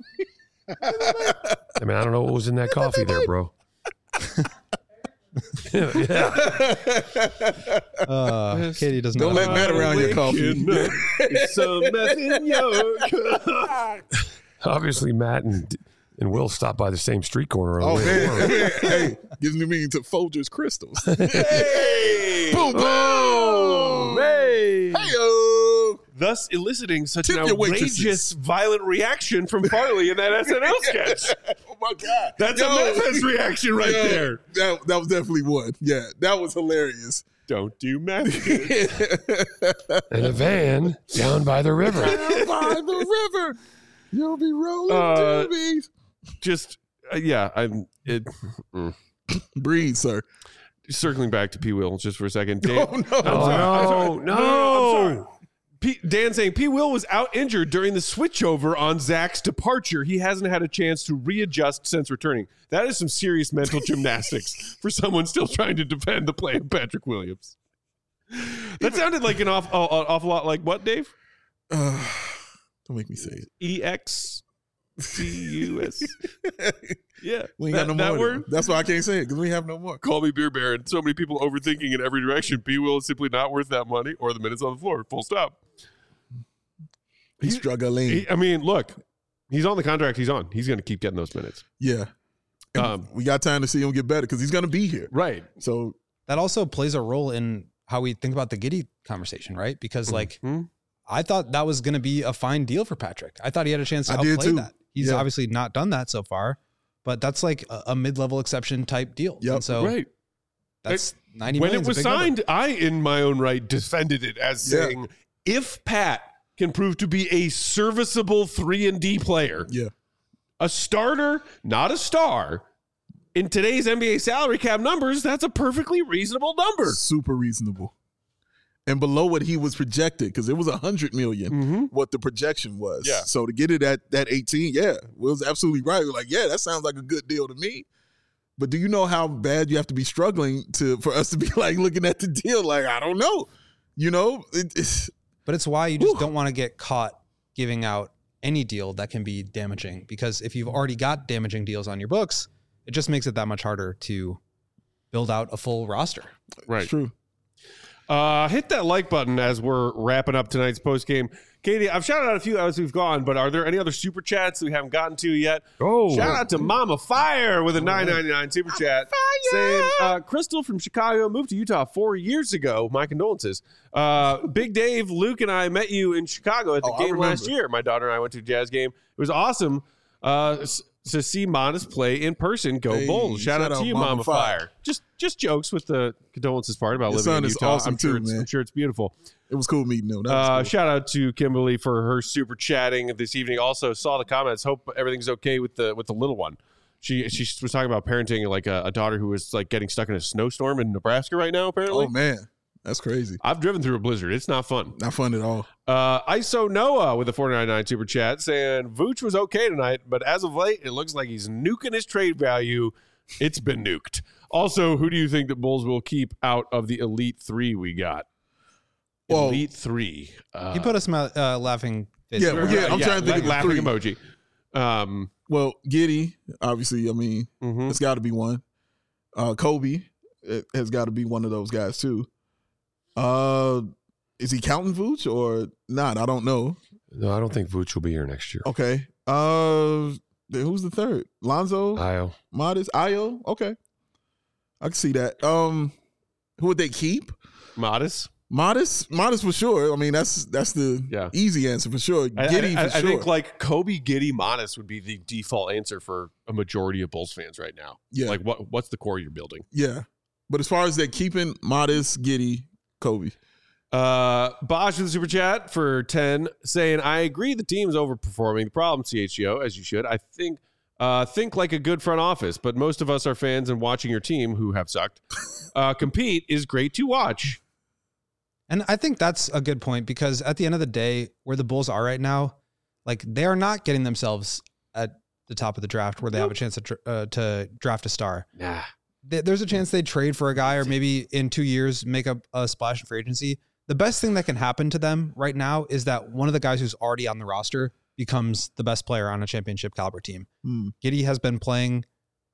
S3: I mean, I don't know what was in that coffee there, bro. yeah.
S4: Uh, Katie doesn't
S2: Don't
S4: know.
S2: let Matt around your coffee.
S1: Some meth in your cup.
S3: Obviously, Matt and and Will stopped by the same street corner. On
S2: Oh
S3: the way to
S2: man,
S3: work.
S2: hey, gives me meaning to Folgers Crystals.
S1: Hey!
S2: Boom, boom.
S1: Hey!
S2: Hey-o.
S1: Thus eliciting such
S2: Tip
S1: an
S2: your
S1: outrageous,
S2: waitresses.
S1: violent reaction from Farley in that S N L sketch.
S2: Oh my god,
S1: That's
S2: Yo.
S1: a Memphis reaction right
S2: Yo,
S1: there.
S2: That that was definitely one. Yeah, that was hilarious.
S1: Don't do math.
S3: In a van down by the river.
S2: Down by the river, you'll be rolling
S1: Uh,
S2: doobies.
S1: Just uh, yeah, I'm it. mm.
S2: Breathe, sir.
S1: Circling back to P. Will just for a second. Dan,
S2: Oh no.
S1: I'm sorry, I'm sorry.
S3: no,
S1: No, no, no, I'm
S3: no.
S1: sorry. P, Dan saying P. Will was out injured during the switchover on Zach's departure. He hasn't had a chance to readjust since returning. That is some serious mental gymnastics for someone still trying to defend the play of Patrick Williams. That sounded like an off, uh, an awful lot like what, Dave?
S2: Uh, don't make me say it.
S1: E X C U S. Yeah.
S2: We ain't
S1: that,
S2: got no
S1: that
S2: more.
S1: word?
S2: That's why I can't say it because we have no more.
S1: Call me Beer Baron. So many people overthinking in every direction. P. Will is simply not worth that money or the minutes on the floor. Full stop.
S2: He's struggling.
S1: He, I mean, look, he's on the contract he's on. He's going to keep getting those minutes.
S2: yeah. And
S1: Um,
S2: we got time to see him get better because he's going to be here.
S1: Right.
S2: So
S4: That also plays a role in how we think about the Giddey conversation, right? Because like
S1: Hmm?
S4: I thought that was going to be a fine deal for Patrick. I thought he had a chance to
S2: I did
S4: outplay
S2: too.
S4: that. He's
S2: Yeah.
S4: obviously not done that so far, but that's like a, a mid-level exception type deal.
S2: Yep.
S4: And so
S1: right.
S4: that's ninety
S1: When
S4: million.
S1: it was signed, I, in my own right, defended it as
S2: Yeah.
S1: saying, if Pat can prove to be a serviceable three and D player,
S2: yeah.
S1: a starter, not a star, in today's N B A salary cap numbers, that's a perfectly reasonable number.
S2: Super reasonable. And below what he was projected, because it was a hundred million,
S1: Mm-hmm.
S2: what the projection was.
S1: Yeah.
S2: So to get it at that eighteen, yeah, Will's absolutely right. We're like, yeah, that sounds like a good deal to me. But do you know how bad you have to be struggling to for us to be like looking at the deal? Like, I don't know. You know, it, it's
S4: But it's why you just
S2: Whew.
S4: don't want to get caught giving out any deal that can be damaging, because if you've already got damaging deals on your books, it just makes it that much harder to build out a full roster.
S1: Right.
S2: it's true.
S1: Uh, hit that like button as we're wrapping up tonight's post game. Katie, I've shouted out a few as we've gone, but are there any other super chats that we haven't gotten to yet?
S3: Oh,
S1: Shout out to Mama Fire with a nine ninety-nine super chat saying, uh, Crystal from Chicago moved to Utah four years ago. My condolences. Uh, Big Dave, Luke, and I met you in Chicago at the
S2: Oh, I
S1: game last
S2: remember.
S1: year. My daughter and I went to a Jazz game. It was awesome uh, s- to see Monas play in person. Go
S2: Hey,
S1: Bulls. Shout,
S2: shout
S1: out to
S2: out
S1: you,
S2: Mama
S1: Mama Fire.
S2: Fire.
S1: Just just jokes with the condolences part about
S2: Your
S1: living
S2: son
S1: in
S2: is
S1: Utah.
S2: awesome
S1: I'm sure
S2: too,
S1: it's,
S2: man.
S1: I'm sure it's beautiful.
S2: It was cool meeting them. That
S1: Uh,
S2: was cool.
S1: shout out to Kimberly for her super chatting this evening. Also saw the comments. Hope everything's okay with the with the little one. She she was talking about parenting like a, a daughter who was like getting stuck in a snowstorm in Nebraska right now. Apparently,
S2: Oh man, That's crazy.
S1: I've driven through a blizzard. It's not fun.
S2: Not fun at all.
S1: Uh, I S O Noah with a four ninety-nine super chat saying Vooch was okay tonight, but as of late, it looks like he's nuking his trade value. It's been nuked. Also, who do you think the Bulls will keep out of the Elite Three we got?
S2: Well,
S1: Elite Three. Uh,
S4: He put a smile, uh, laughing face.
S2: Yeah, well, yeah, I'm trying to think of the
S1: laughing
S2: three.
S1: emoji. Um,
S2: Well, Giddey, obviously, I mean,
S1: mhm.
S2: it's got to be one. Uh, Kobe it has got to be one of those guys too. Uh, is he counting Vooch or not? I don't know.
S3: No, I don't think Vooch will be here next year.
S2: Okay. Uh, then who's the third? Lonzo,
S3: Io.
S2: Modest, Io. Okay, I can see that. Um, who would they keep?
S1: Modest.
S2: Modest, Modest for sure. I mean, that's that's the
S1: Yeah.
S2: easy answer for sure.
S1: I,
S2: Giddey
S1: I, I,
S2: for
S1: I
S2: sure.
S1: think like Kobe, Giddy, Modest would be the default answer for a majority of Bulls fans right now.
S2: yeah,
S1: Like what what's the core you're building?
S2: yeah. But as far as that keeping, Modest, Giddey, Kobe.
S1: Uh, Bosch with the super chat for ten saying, I agree the team's overperforming. The problem, C H G O, as you should. I think uh, think like a good front office, but most of us are fans and watching your team, who have sucked, uh, compete is great to watch.
S4: And I think that's a good point because at the end of the day, where the Bulls are right now, like they are not getting themselves at the top of the draft where they have a chance to dr- uh, to draft a star.
S1: Nah.
S4: Th- There's a chance they trade for a guy or maybe in two years make a, a splash in free agency. The best thing that can happen to them right now is that one of the guys who's already on the roster becomes the best player on a championship caliber team.
S2: Hmm.
S4: Giddey has been playing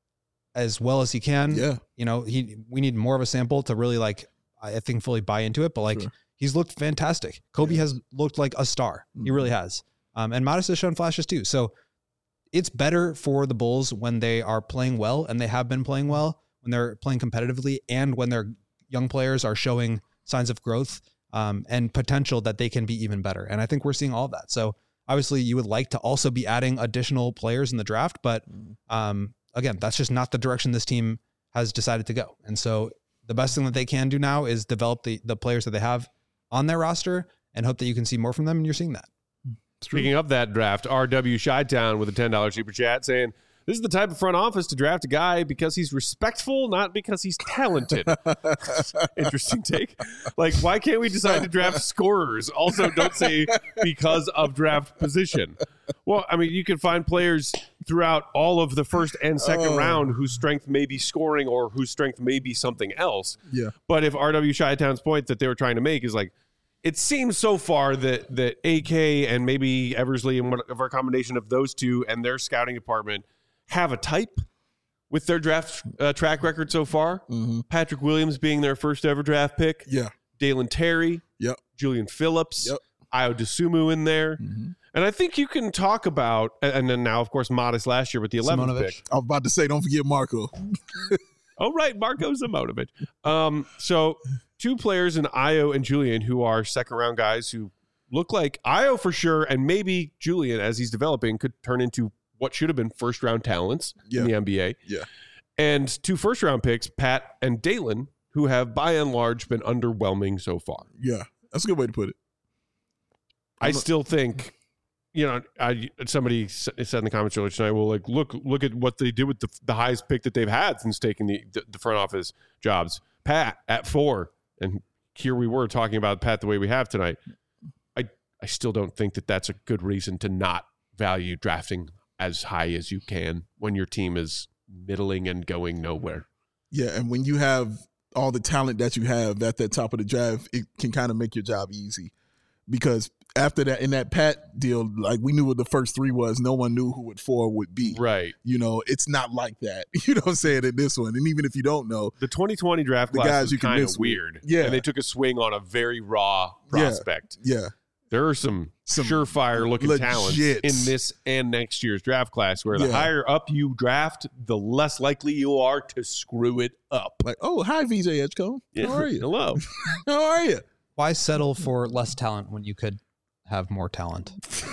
S4: as well as he can.
S2: Yeah,
S4: You know, he we need more of a sample to really like I think fully buy into it, but like
S2: Sure.
S4: he's looked fantastic. Kobe
S2: Yeah.
S4: has looked like a star. He
S2: Mhm.
S4: really has. Um, and Modest has shown flashes too. So it's better for the Bulls when they are playing well, and they have been playing well, when they're playing competitively, and when their young players are showing signs of growth um, and potential that they can be even better. And I think we're seeing all of that. So obviously you would like to also be adding additional players in the draft, but um, again, that's just not the direction this team has decided to go. And so the best thing that they can do now is develop the, the players that they have on their roster and hope that you can see more from them. And you're seeing that.
S1: Speaking of that draft, R W Chi-Town with a ten dollars super chat saying, this is the type of front office to draft a guy because he's respectful, not because he's talented. Interesting take. Like, why can't we decide to draft scorers? Also, don't say because of draft position. Well, I mean, you can find players throughout all of the first and second
S2: Oh.
S1: round whose strength may be scoring or whose strength may be something else.
S2: yeah.
S1: But if R W Chi-Town's point that they were trying to make is like, it seems so far that that A K and maybe Eversley and whatever a combination of those two and their scouting department have a type with their draft uh, track record so far.
S2: Mm-hmm.
S1: Patrick Williams being their first ever draft pick.
S2: Yeah.
S1: Dalen Terry.
S2: Yep.
S1: Julian Phillips.
S2: Yep.
S1: Io DeSumo in there.
S2: Mm-hmm.
S1: And I think you can talk about, and then now, of course, Modest last year with the eleventh
S4: Simonovic.
S1: pick.
S2: I was about to say, don't forget Marco.
S1: Oh, right. Marco Zimonovic. Um, so two players in Io and Julian who are second round guys who look like Io for sure, and maybe Julian, as he's developing, could turn into what should have been first round talents
S2: Yeah.
S1: in the N B A.
S2: Yeah.
S1: And two first round picks, Pat and Dalen, who have by and large been underwhelming so far.
S2: Yeah. That's a good way to put it.
S1: I still think, you know, I somebody s- said in the comments earlier tonight, well, like look, look at what they did with the, the highest pick that they've had since taking the, the the front office jobs. Pat at four, and here we were talking about Pat the way we have tonight. I I still don't think that that's a good reason to not value drafting as high as you can when your team is middling and going nowhere.
S2: Yeah. And when you have all the talent that you have at the top of the draft, it can kind of make your job easy. Because after that, in that Pat deal, like we knew what the first three was. No one knew who what four would be.
S1: Right.
S2: You know, it's not like that. You know what I'm saying, in this one. And even if you don't know,
S1: The twenty twenty draft
S2: The
S1: class
S2: guys
S1: was
S2: you can
S1: kind
S2: miss
S1: of
S2: with.
S1: weird.
S2: Yeah.
S1: And they took a swing on a very raw
S2: Yeah.
S1: prospect.
S2: yeah.
S1: There are some,
S2: Some
S1: surefire looking
S2: legit.
S1: talents in this and next year's draft class where the
S2: Yeah.
S1: higher up you draft, the less likely you are to screw it up.
S2: Like, oh, hi, V J Edgecombe. How are you?
S1: Hello.
S2: How are you?
S4: Why settle for less talent when you could have more talent?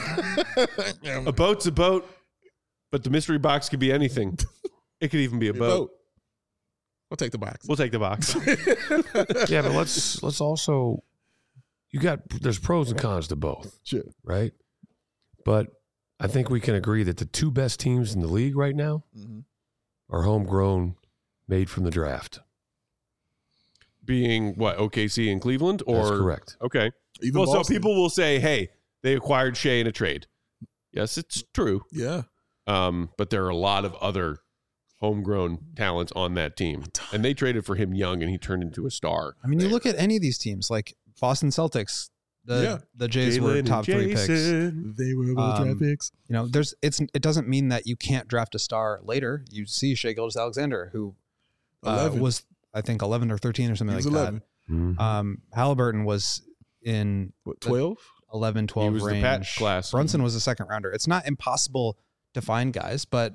S1: A boat's a boat, but the mystery box could be anything. It could even be a boat.
S2: I'll take the box.
S1: We'll take the box.
S3: Yeah, but let's let's also you got there's pros and cons to both,
S2: Sure.
S3: right? But I think we can agree that the two best teams in the league right now
S2: Mm-hmm.
S3: are homegrown, made from the draft.
S1: being what, O K C and Cleveland? Or
S3: That's correct.
S1: Okay.
S2: Even
S1: well,
S2: Boston.
S1: so people will say, hey, they acquired Shea in a trade. Yes, it's true.
S2: Yeah.
S1: Um, but there are a lot of other homegrown talents on that team. And they traded for him young, and he turned into a star.
S4: I mean, you
S1: there.
S4: look at any of these teams, like Boston Celtics. The
S2: Yeah.
S4: the Jays
S1: Jalen
S4: were
S1: and
S4: top three picks.
S1: Jason.
S2: They were able to
S4: Um,
S2: draft picks.
S4: You know, there's it's it doesn't mean that you can't draft a star later. You see Shea Gilgeous-Alexander, who uh,
S2: eleven.
S4: was I think eleven or thirteen or something
S2: He
S4: like
S2: was eleven.
S3: Mhm.
S4: that. Um, Halliburton was in
S2: What, twelve?
S4: eleven, twelve
S1: He was the
S4: range.
S1: patch class.
S4: Brunson was a second rounder. It's not impossible to find guys, but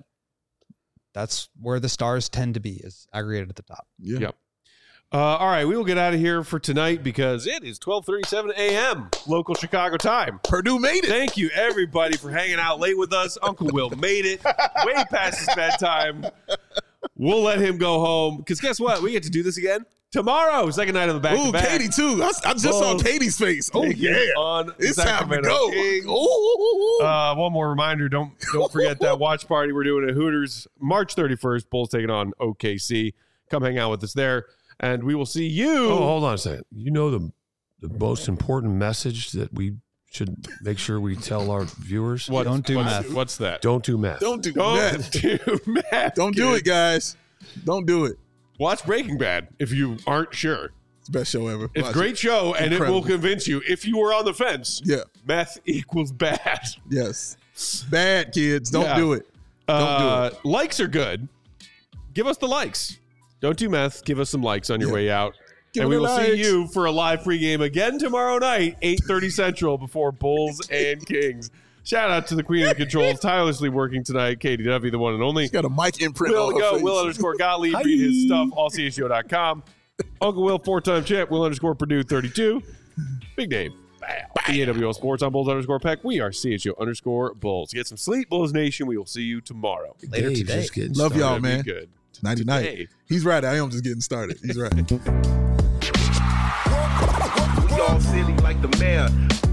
S4: that's where the stars tend to be, is aggregated at the top.
S2: Yeah.
S1: Yep. Uh, all right, we will get out of here for tonight because it is twelve thirty-seven a.m. local Chicago time.
S2: Purdue made it.
S1: Thank you, everybody, for hanging out late with us. Uncle Will made it way past his bedtime. We'll let him go home because guess what? We get to do this again tomorrow. Second night of the back
S2: Ooh,
S1: to back.
S2: Katie too. I, I just saw
S1: Bulls
S2: Katie's face. Oh
S1: Take
S2: yeah,
S1: it on
S2: it's time to
S1: Sacramento
S2: go.
S1: Kings.
S2: Ooh.
S1: Uh, one more reminder: don't don't forget that watch party we're doing at Hooters March thirty-first. Bulls taking on O K C. Come hang out with us there, and we will see you.
S3: Oh, hold on a second. You know the the most important message that we should make sure we tell our viewers?
S1: What-
S4: Don't do
S1: what's,
S4: meth.
S1: What's that?
S3: Don't do meth.
S2: Don't do
S1: Don't
S2: that.
S1: do math.
S2: Don't do it, guys. Don't do it.
S1: Watch Breaking Bad if you aren't sure.
S2: It's the best show ever.
S1: It's
S2: Watch
S1: a great
S2: it.
S1: show, and
S2: Incredible.
S1: it will convince you if you were on the fence.
S2: Yeah.
S1: Meth equals bad.
S2: Yes. Bad kids. Don't
S1: Yeah.
S2: do it. Don't
S1: Uh,
S2: do it.
S1: Likes are good. Give us the likes. Don't do meth. Give us some likes on your
S2: Yeah.
S1: way out.
S2: Give
S1: and we
S2: it
S1: will
S2: a
S1: see
S2: likes.
S1: you for a live pregame again tomorrow night, eight thirty Central, before Bulls and Kings. Shout out to the Queen of the Controls, tirelessly working tonight, Katie Duffy, the one and only.
S2: She's got a mic imprint
S1: Will
S2: on her
S1: go,
S2: face.
S1: Will underscore Gottlieb, read his stuff, all c h o dot com. Uncle Will, four-time champ, Will underscore Purdue, thirty-two. Big Dave. The A W L Sports on Bulls underscore Peck. We are C H O underscore Bulls. Get some sleep, Bulls Nation. We will see you tomorrow.
S4: Later
S3: Dave's
S4: today.
S3: just getting
S2: Love
S3: started.
S2: y'all,
S1: Gonna be
S2: man.
S1: Good.
S2: Nighty night.
S1: Today.
S2: He's right. I am just getting started. He's right.
S5: We all silly like the mayor.